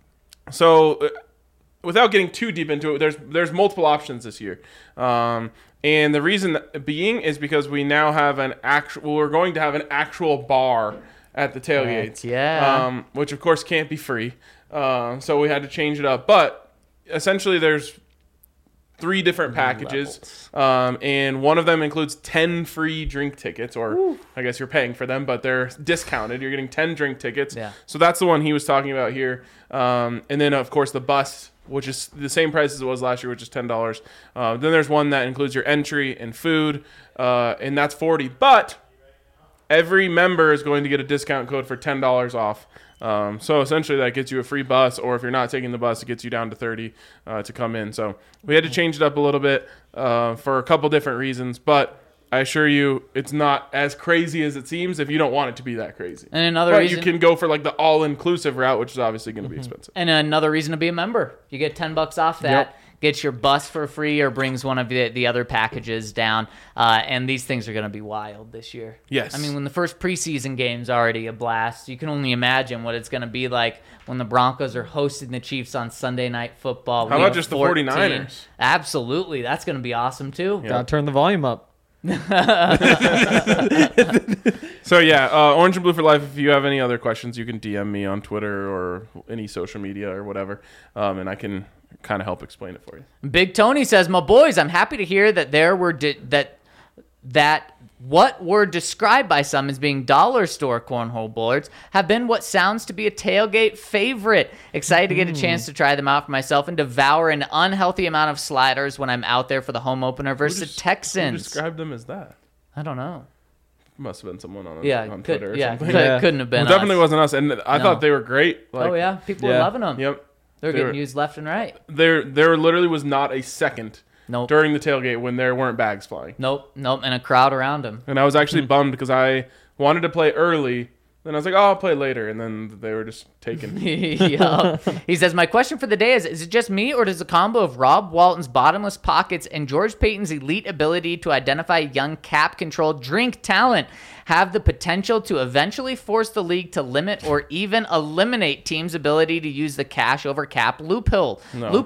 B: So, without getting too deep into it, there's multiple options this year, and the reason being is because we now have we're going to have an actual bar at the tailgates,
A: Yeah.
B: which of course can't be free. So we had to change it up, but essentially there's 3 different packages, and one of them includes 10 free drink tickets, or I guess you're paying for them, but they're discounted. You're getting 10 drink tickets.
A: Yeah.
B: So that's the one he was talking about here. And then, of course, the bus, which is the same price as it was last year, which is $10. Then there's one that includes your entry and food, and that's $40. But every member is going to get a discount code for $10 off. So essentially that gets you a free bus, or if you're not taking the bus, it gets you down to $30 to come in. So we had to change it up a little bit for a couple different reasons, but I assure you it's not as crazy as it seems if you don't want it to be that crazy.
A: And another
B: but
A: reason,
B: you can go for like the all-inclusive route, which is obviously going to be expensive.
A: and another reason to be a member. You get $10 off that.
B: Yep.
A: Gets your bus for free, or brings one of the other packages down. And these things are going to be wild this year.
B: Yes.
A: I mean, when the first preseason game's already a blast, you can only imagine what it's going to be like when the Broncos are hosting the Chiefs on Sunday Night Football.
B: How
A: Week
B: about just the
A: 14.
B: 49ers?
A: Absolutely. That's going to be awesome, too.
B: Yeah.
C: Gotta turn the volume up.
B: So yeah, Orange and Blue for Life. If you have any other questions, you can DM me on Twitter or any social media or whatever, and I can kind of help explain it for you.
A: Big Tony says, "My boys, I'm happy to hear that there were that what were described by some as being dollar store cornhole boards have been what sounds to be a tailgate favorite. Excited to get a chance to try them out for myself and devour an unhealthy amount of sliders when I'm out there for the home opener versus the
B: Who
A: Texans."
B: described them as that?
A: I don't know.
B: Must have been someone on
A: Yeah,
B: Twitter or something.
A: couldn't have been.
B: Well, definitely
A: us.
B: wasn't us, and I thought they were great. Like,
A: Oh yeah, people were
C: Yeah.
A: loving them.
B: Yep.
A: They're
B: They
A: getting
B: were-
A: used left and right.
B: There literally was not a second
A: Nope.
B: during the tailgate when there weren't bags flying.
A: Nope, and a crowd around them.
B: And I was actually bummed because I wanted to play early. Then I was like, oh, I'll play later. And then they were just taken.
A: Yeah. He says, "My question for the day is it just me, or does the combo of Rob Walton's bottomless pockets and George Payton's elite ability to identify young cap-controlled drink talent have the potential to eventually force the league to limit or even eliminate teams' ability to use the cash over cap loophole?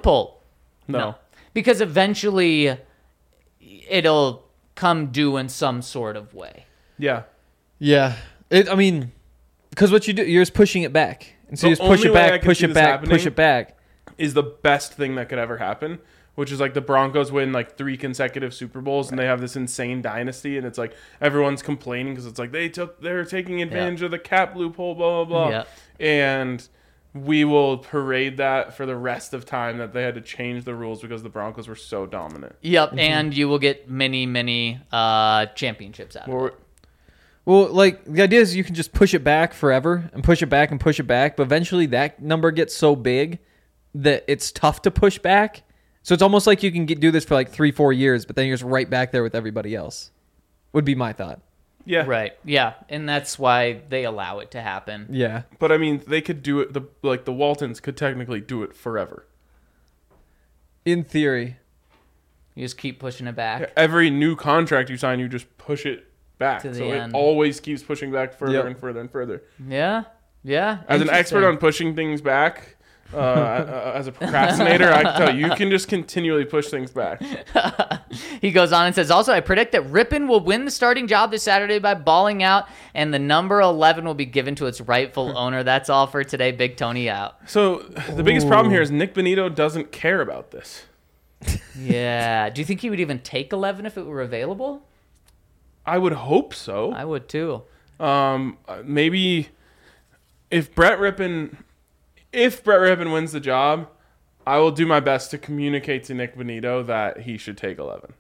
B: No.
A: Because eventually it'll come due in some sort of way.
B: Yeah.
C: Yeah. I mean, because what you do, you're just pushing it back. And so
B: The
C: you just push
B: only
C: it
B: way I
C: back,
B: could
C: push
B: see
C: it
B: this
C: back,
B: happening
C: push it back.
B: Is the best thing that could ever happen, which is like the Broncos win like 3 consecutive Super Bowls and they have this insane dynasty, and it's like everyone's complaining because it's like they're taking advantage of the cap loophole, blah blah blah,
A: Yeah.
B: and we will parade that for the rest of time that they had to change the rules because the Broncos were so dominant.
A: Yep, and you will get many championships out of it.
B: Well,
C: Well, like, the idea is you can just push it back forever and push it back and push it back, but eventually that number gets so big that it's tough to push back. So it's almost like you can do this for like 3-4 years, but then you're just right back there with everybody else. Would be my thought.
B: yeah,
A: Right, yeah, and that's why they allow it to happen.
C: Yeah.
B: But I mean, they could do it. The Waltons could technically do it forever.
C: In theory.
A: You just keep pushing it back.
B: Every new contract you sign, you just push it back,
A: To the
B: so
A: end.
B: it always keeps pushing back further
C: Yep.
B: and further and further.
A: Yeah.
B: As an expert on pushing things back, as a procrastinator, I can tell you can just continually push things back.
A: He goes on and says, also, I predict that Rippon will win the starting job this Saturday by balling out, and the number 11 will be given to its rightful owner. That's all for today. Big Tony out.
B: So the biggest problem here is Nick Benito doesn't care about this.
A: Yeah. Do you think he would even take 11 if it were available?
B: I would hope so.
A: I would too.
B: Maybe if Brett Rippon wins the job, I will do my best to communicate to Nick Benito that he should take 11.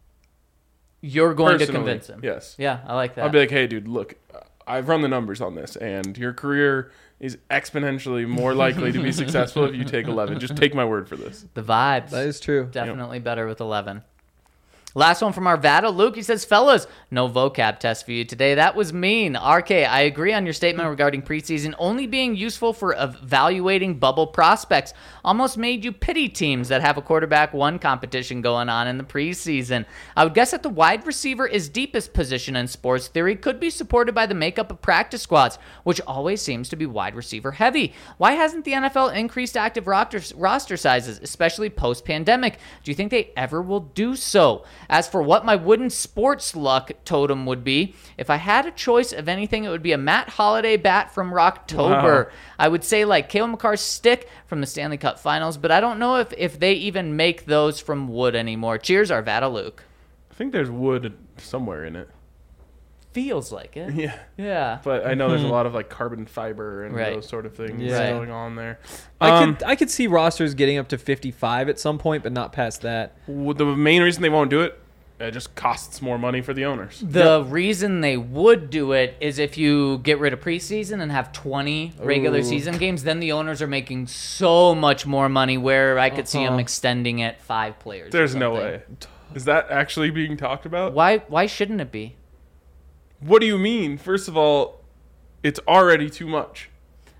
A: You're going to
B: Personally,
A: convince him.
B: yes.
A: Yeah, I like that.
B: I'll be like, hey, dude, look, I've run the numbers on this, and your career is exponentially more likely to be successful if you take 11. Just take my word for this.
A: the vibes.
C: That is true.
A: Definitely better with 11. Last one from Arvada. Luke, he says, fellas, no vocab test for you today. That was mean. RK, I agree on your statement regarding preseason only being useful for evaluating bubble prospects. Almost made you pity teams that have a quarterback one competition going on in the preseason. I would guess that the wide receiver is deepest position in sports theory could be supported by the makeup of practice squads, which always seems to be wide receiver heavy. Why hasn't the NFL increased active roster sizes, especially post-pandemic? Do you think they ever will do so? As for what my wooden sports luck totem would be, if I had a choice of anything, it would be a Matt Holliday bat from Rocktober.
B: Wow.
A: I would say like Cale McCarr's stick from the Stanley Cup Finals, but I don't know if they even make those from wood anymore. Cheers, Arvada Luke.
B: I think there's wood somewhere in it.
A: Feels like it.
B: Yeah.
A: Yeah.
B: But I know there's a lot of like carbon fiber and
A: Right.
B: those sort of things
C: Yeah.
B: going on there.
C: I could see rosters getting up to 55 at some point, but not past that.
B: The main reason they won't do it, it just costs more money for the owners.
A: The reason they would do it is if you get rid of preseason and have 20 regular
C: Ooh.
A: season games, then the owners are making so much more money where I could see them extending it 5 players. or
B: There's no
A: something.
B: way. Is that actually being talked about?
A: Why shouldn't it be?
B: What do you mean? First of all, it's already too much.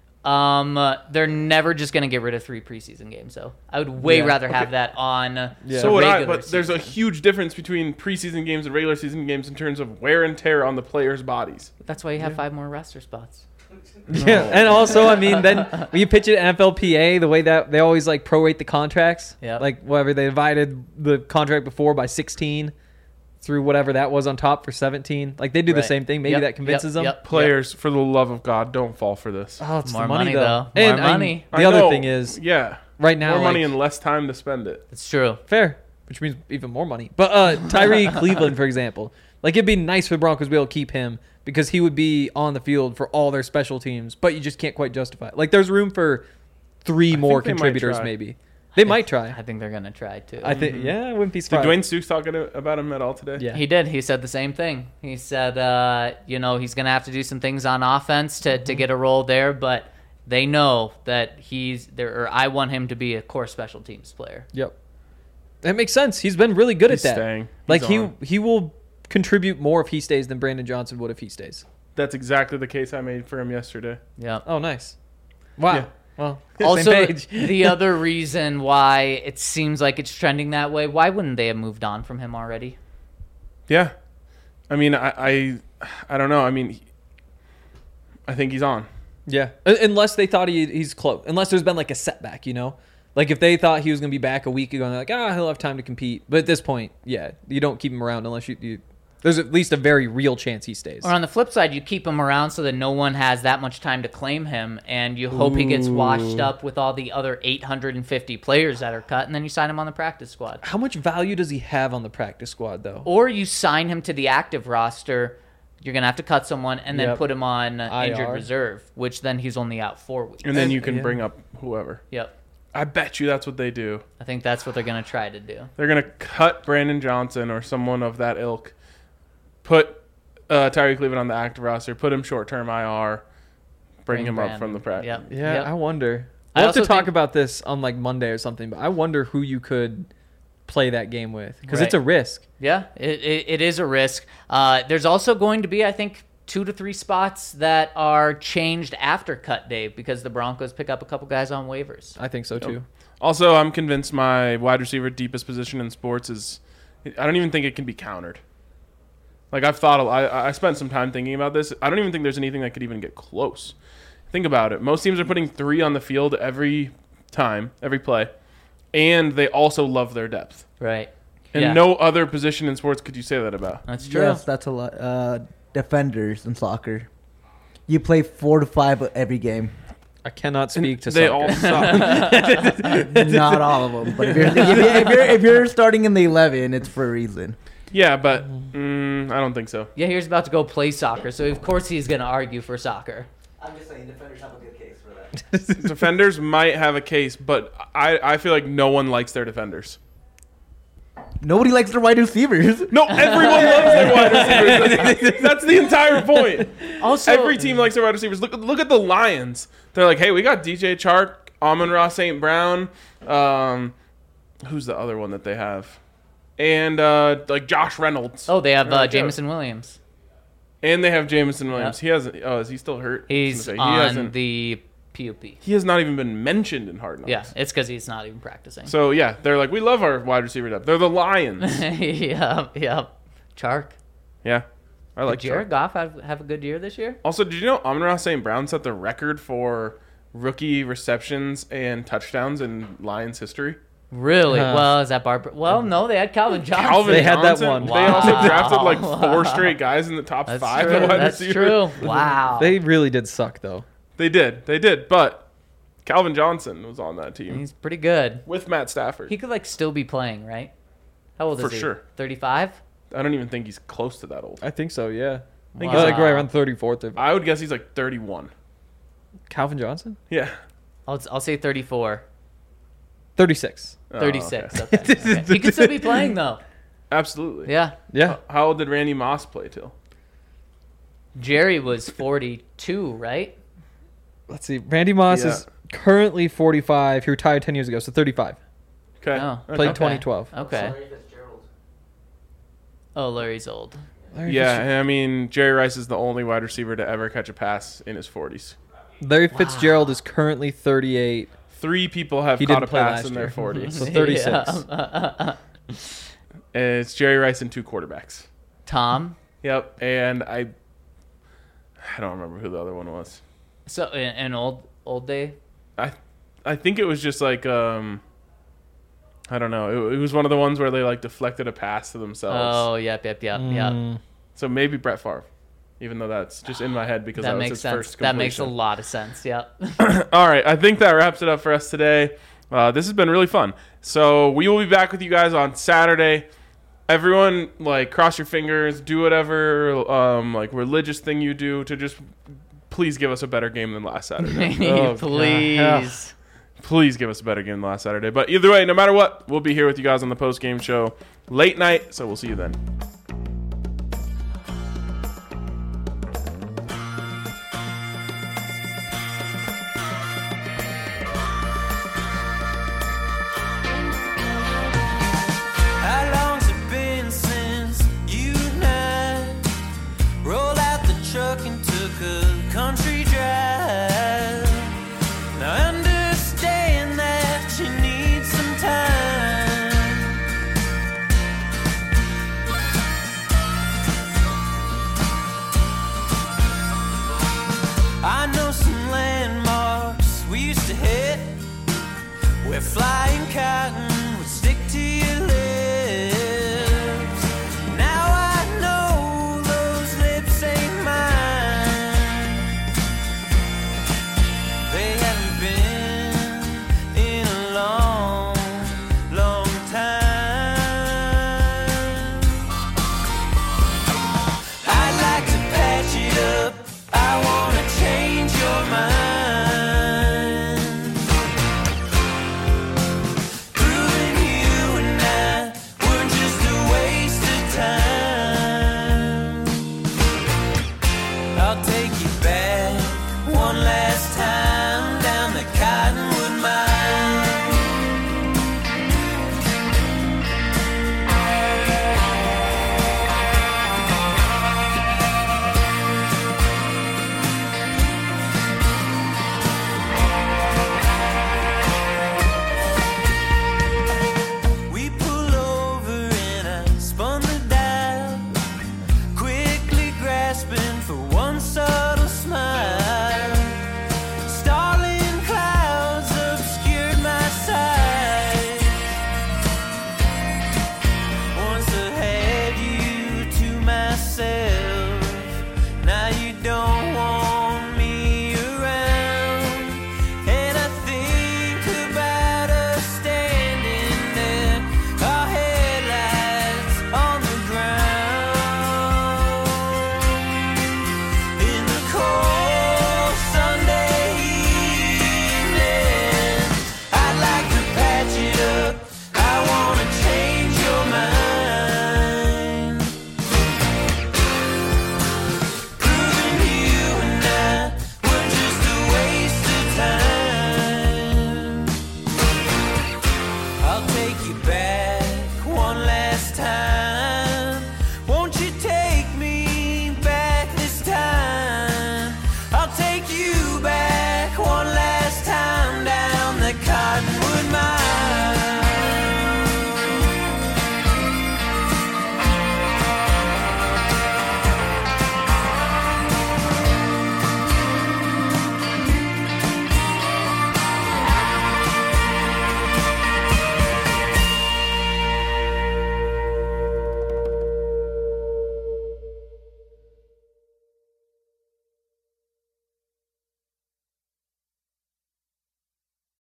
A: They're never just going to get rid of 3 preseason games, though. I would way
C: Yeah.
A: rather have that on
C: Yeah.
B: So would I,
A: regular
B: but there's a
A: season.
B: huge difference between preseason games and regular season games in terms of wear and tear on the players' bodies.
A: That's why you have 5 more roster spots.
C: Yeah, and also, I mean, then when you pitch it at NFLPA, the way that they always like prorate the contracts,
A: Yep.
C: like whatever they divided the contract before by 16 through whatever that was on top for 17. Like they do the
A: Right.
C: same thing. Maybe
A: Yep,
C: that convinces them.
A: yep.
B: Players, for the love of God, don't fall for this.
C: Oh, it's
A: More
C: the money,
A: money,
C: though.
A: though.
C: And
A: More
C: I mean,
A: money.
C: the
B: I
C: other
B: know.
C: thing is,
B: Yeah,
C: right now,
B: more money
C: like,
B: and less time to spend it.
A: It's true.
C: fair, which means even more money. But Tyree Cleveland, for example, like it'd be nice for the Broncos to be able to keep him because he would be on the field for all their special teams, but you just can't quite justify it. Like there's room for 3 more
B: think they might
C: contributors,
B: try.
C: maybe. They might try.
A: I think they're going to try, too.
C: I think, yeah, I wouldn't be
B: Did
C: surprised.
B: Dwayne Stooks talk about him at all today?
C: Yeah.
A: He did. He said the same thing. He said, he's going to have to do some things on offense to get a role there, but they know that he's there. Or I want him to be a core special teams player.
C: Yep. That makes sense. He's been really good
B: He's
C: at that.
B: staying.
C: Like
B: He's on.
C: he will contribute more if he stays than Brandon Johnson would if he stays.
B: That's exactly the case I made for him yesterday.
A: Yeah.
C: Oh, nice. Wow.
B: Yeah.
C: Well,
A: Also,
C: same page.
A: the other reason why it seems like it's trending that way, why wouldn't they have moved on from him already?
B: Yeah, I mean, I don't know. I mean, I think he's on.
C: Yeah. Unless they thought he's close. Unless there's been like a setback, you know? Like if they thought he was going to be back a week ago and they're like, he'll have time to compete. But at this point, yeah, you don't keep him around unless you there's at least a very real chance he stays.
A: Or on the flip side, you keep him around so that no one has that much time to claim him, and you hope he gets washed up with all the other 850 players that are cut, and then you sign him on the practice squad.
C: How much value does he have on the practice squad, though?
A: Or you sign him to the active roster. You're going to have to cut someone and then
C: Yep.
A: put him on injured
C: IR.
A: reserve, which then he's only out 4 weeks.
B: And then you can
C: Yeah.
B: bring up whoever.
A: Yep.
B: I bet you that's what they do.
A: I think that's what they're going to try to do.
B: They're going to cut Brandon Johnson or someone of that ilk, put Tyree Cleveland on the active roster, put him short-term IR, bring him up from the practice.
A: Yep.
C: Yeah,
A: Yep.
C: I wonder.
A: I
C: We'll have to
A: also
C: talk
A: think-
C: about this on like Monday or something, but I wonder who you could play that game with because it's
A: Right.
C: a risk.
A: Yeah, it is a risk. There's also going to be, I think, 2 to 3 spots that are changed after cut day because the Broncos pick up a couple guys on waivers.
C: I think so too.
B: Also, I'm convinced my wide receiver deepest position in sports is I don't even think it can be countered. Like I've thought, I spent some time thinking about this. I don't even think there's anything that could even get close. Think about it. Most teams are putting 3 on the field every time, every play, and they also love their depth.
A: Right.
B: And
A: Yeah.
B: no other position in sports could you say that about.
A: That's true.
E: Yes, that's a lot. Defenders in soccer. You play 4 to 5 every game.
C: I cannot speak to
B: They
C: soccer.
B: all suck.
E: Not all of them, but if you're starting in the 11, it's for a reason.
B: Yeah, but I don't think so.
A: Yeah, he's about to go play soccer, so of course he's going to argue for soccer.
E: I'm just saying, defenders have a good case for that.
B: Defenders might have a case, but I feel like no one likes their defenders.
E: Nobody likes their wide receivers.
B: No, everyone loves their wide receivers. That's the entire point.
A: Also,
B: Every team likes their wide receivers. Look at the Lions. They're like, hey, we got DJ Chark, Amon-Ra St. Brown. Who's the other one that they have? And like Josh Reynolds.
A: Oh, they have
B: They're like,
A: Jameson Williams.
B: And they have Jameson Williams. He hasn't. Oh, is he still hurt?
A: He's
B: I was gonna say,
A: on
B: hasn't-
A: the PUP.
B: He has not even been mentioned in Hard Knocks.
A: Yeah, it's because he's not even practicing.
B: So yeah, they're like, we love our wide receiver depth. They're the Lions.
A: yeah. Chark.
B: Yeah, I like
A: Did Jared
B: Chark.
A: Goff have a good year this year?
B: Also, did you know Amon-Ra St. Brown set the record for rookie receptions and touchdowns in Lions history?
A: Really?
C: Uh,
A: Well, is that Barber? Well, no, they had Calvin Johnson.
B: Calvin
C: They had that
B: Johnson.
C: one.
B: They also
A: Wow.
B: drafted like 4 straight guys in the top
A: That's
B: 5
A: true.
B: at wide
A: That's
B: receiver.
A: true. Wow.
C: They really did suck, though.
B: They did. But Calvin Johnson was on that team
A: He's pretty good.
B: with Matt Stafford.
A: He could like still be playing, right? How old
B: For
A: is he?
B: sure.
A: 35?
B: I don't even think he's close to that old.
C: I think so, yeah. I think
A: Wow.
C: he's like right around 34th.
B: I would guess he's like 31.
C: Calvin Johnson?
B: Yeah.
A: I'll say 34.
C: 36.
B: Oh,
A: 36.
B: okay.
A: Okay. He could still be playing though.
B: Absolutely.
A: Yeah.
C: Yeah.
B: How old did Randy Moss play till?
A: Jerry was 42, right?
C: Let's see. Randy Moss
B: Yeah.
C: is currently 45. He retired 10 years ago, so 35.
B: Okay.
A: Oh.
C: Played
A: Okay.
C: 2012.
A: Okay.
D: Larry Fitzgerald.
A: Oh, Larry's old.
B: Yeah, I mean, Jerry Rice is the only wide receiver to ever catch a pass in his 40s.
C: Larry Fitzgerald is currently 38.
B: 3 people have
C: He
B: caught
C: didn't
B: a
C: play
B: pass
C: last
B: in their
C: year.
B: 40s.
C: So 36.
A: Yeah.
B: It's Jerry Rice and 2 quarterbacks.
A: Tom.
B: Yep, and I don't remember who the other one was.
A: So an old day.
B: I think it was just like I don't know. It was one of the ones where they like deflected a pass to themselves.
A: Oh, yep.
B: So maybe Brett Favre, even though that's just in my head because that,
A: That
B: was
A: makes
B: his
A: sense.
B: first
A: That makes a
B: completion.
A: lot of sense. Yep.
B: All right, I think that wraps it up for us today. This has been really fun. So we will be back with you guys on Saturday. Everyone, like, cross your fingers, do whatever like religious thing you do to just please give us a better game than last Saturday.
C: Oh,
A: Please.
C: God.
B: Please give us a better game than last Saturday. But either way, no matter what, we'll be here with you guys on the post game show late night. So we'll see you then.
F: How long's it been since you and I rolled out the truck and took a country drive? Now I understand that you need some time. I know some landmarks we used to hit where flying cotton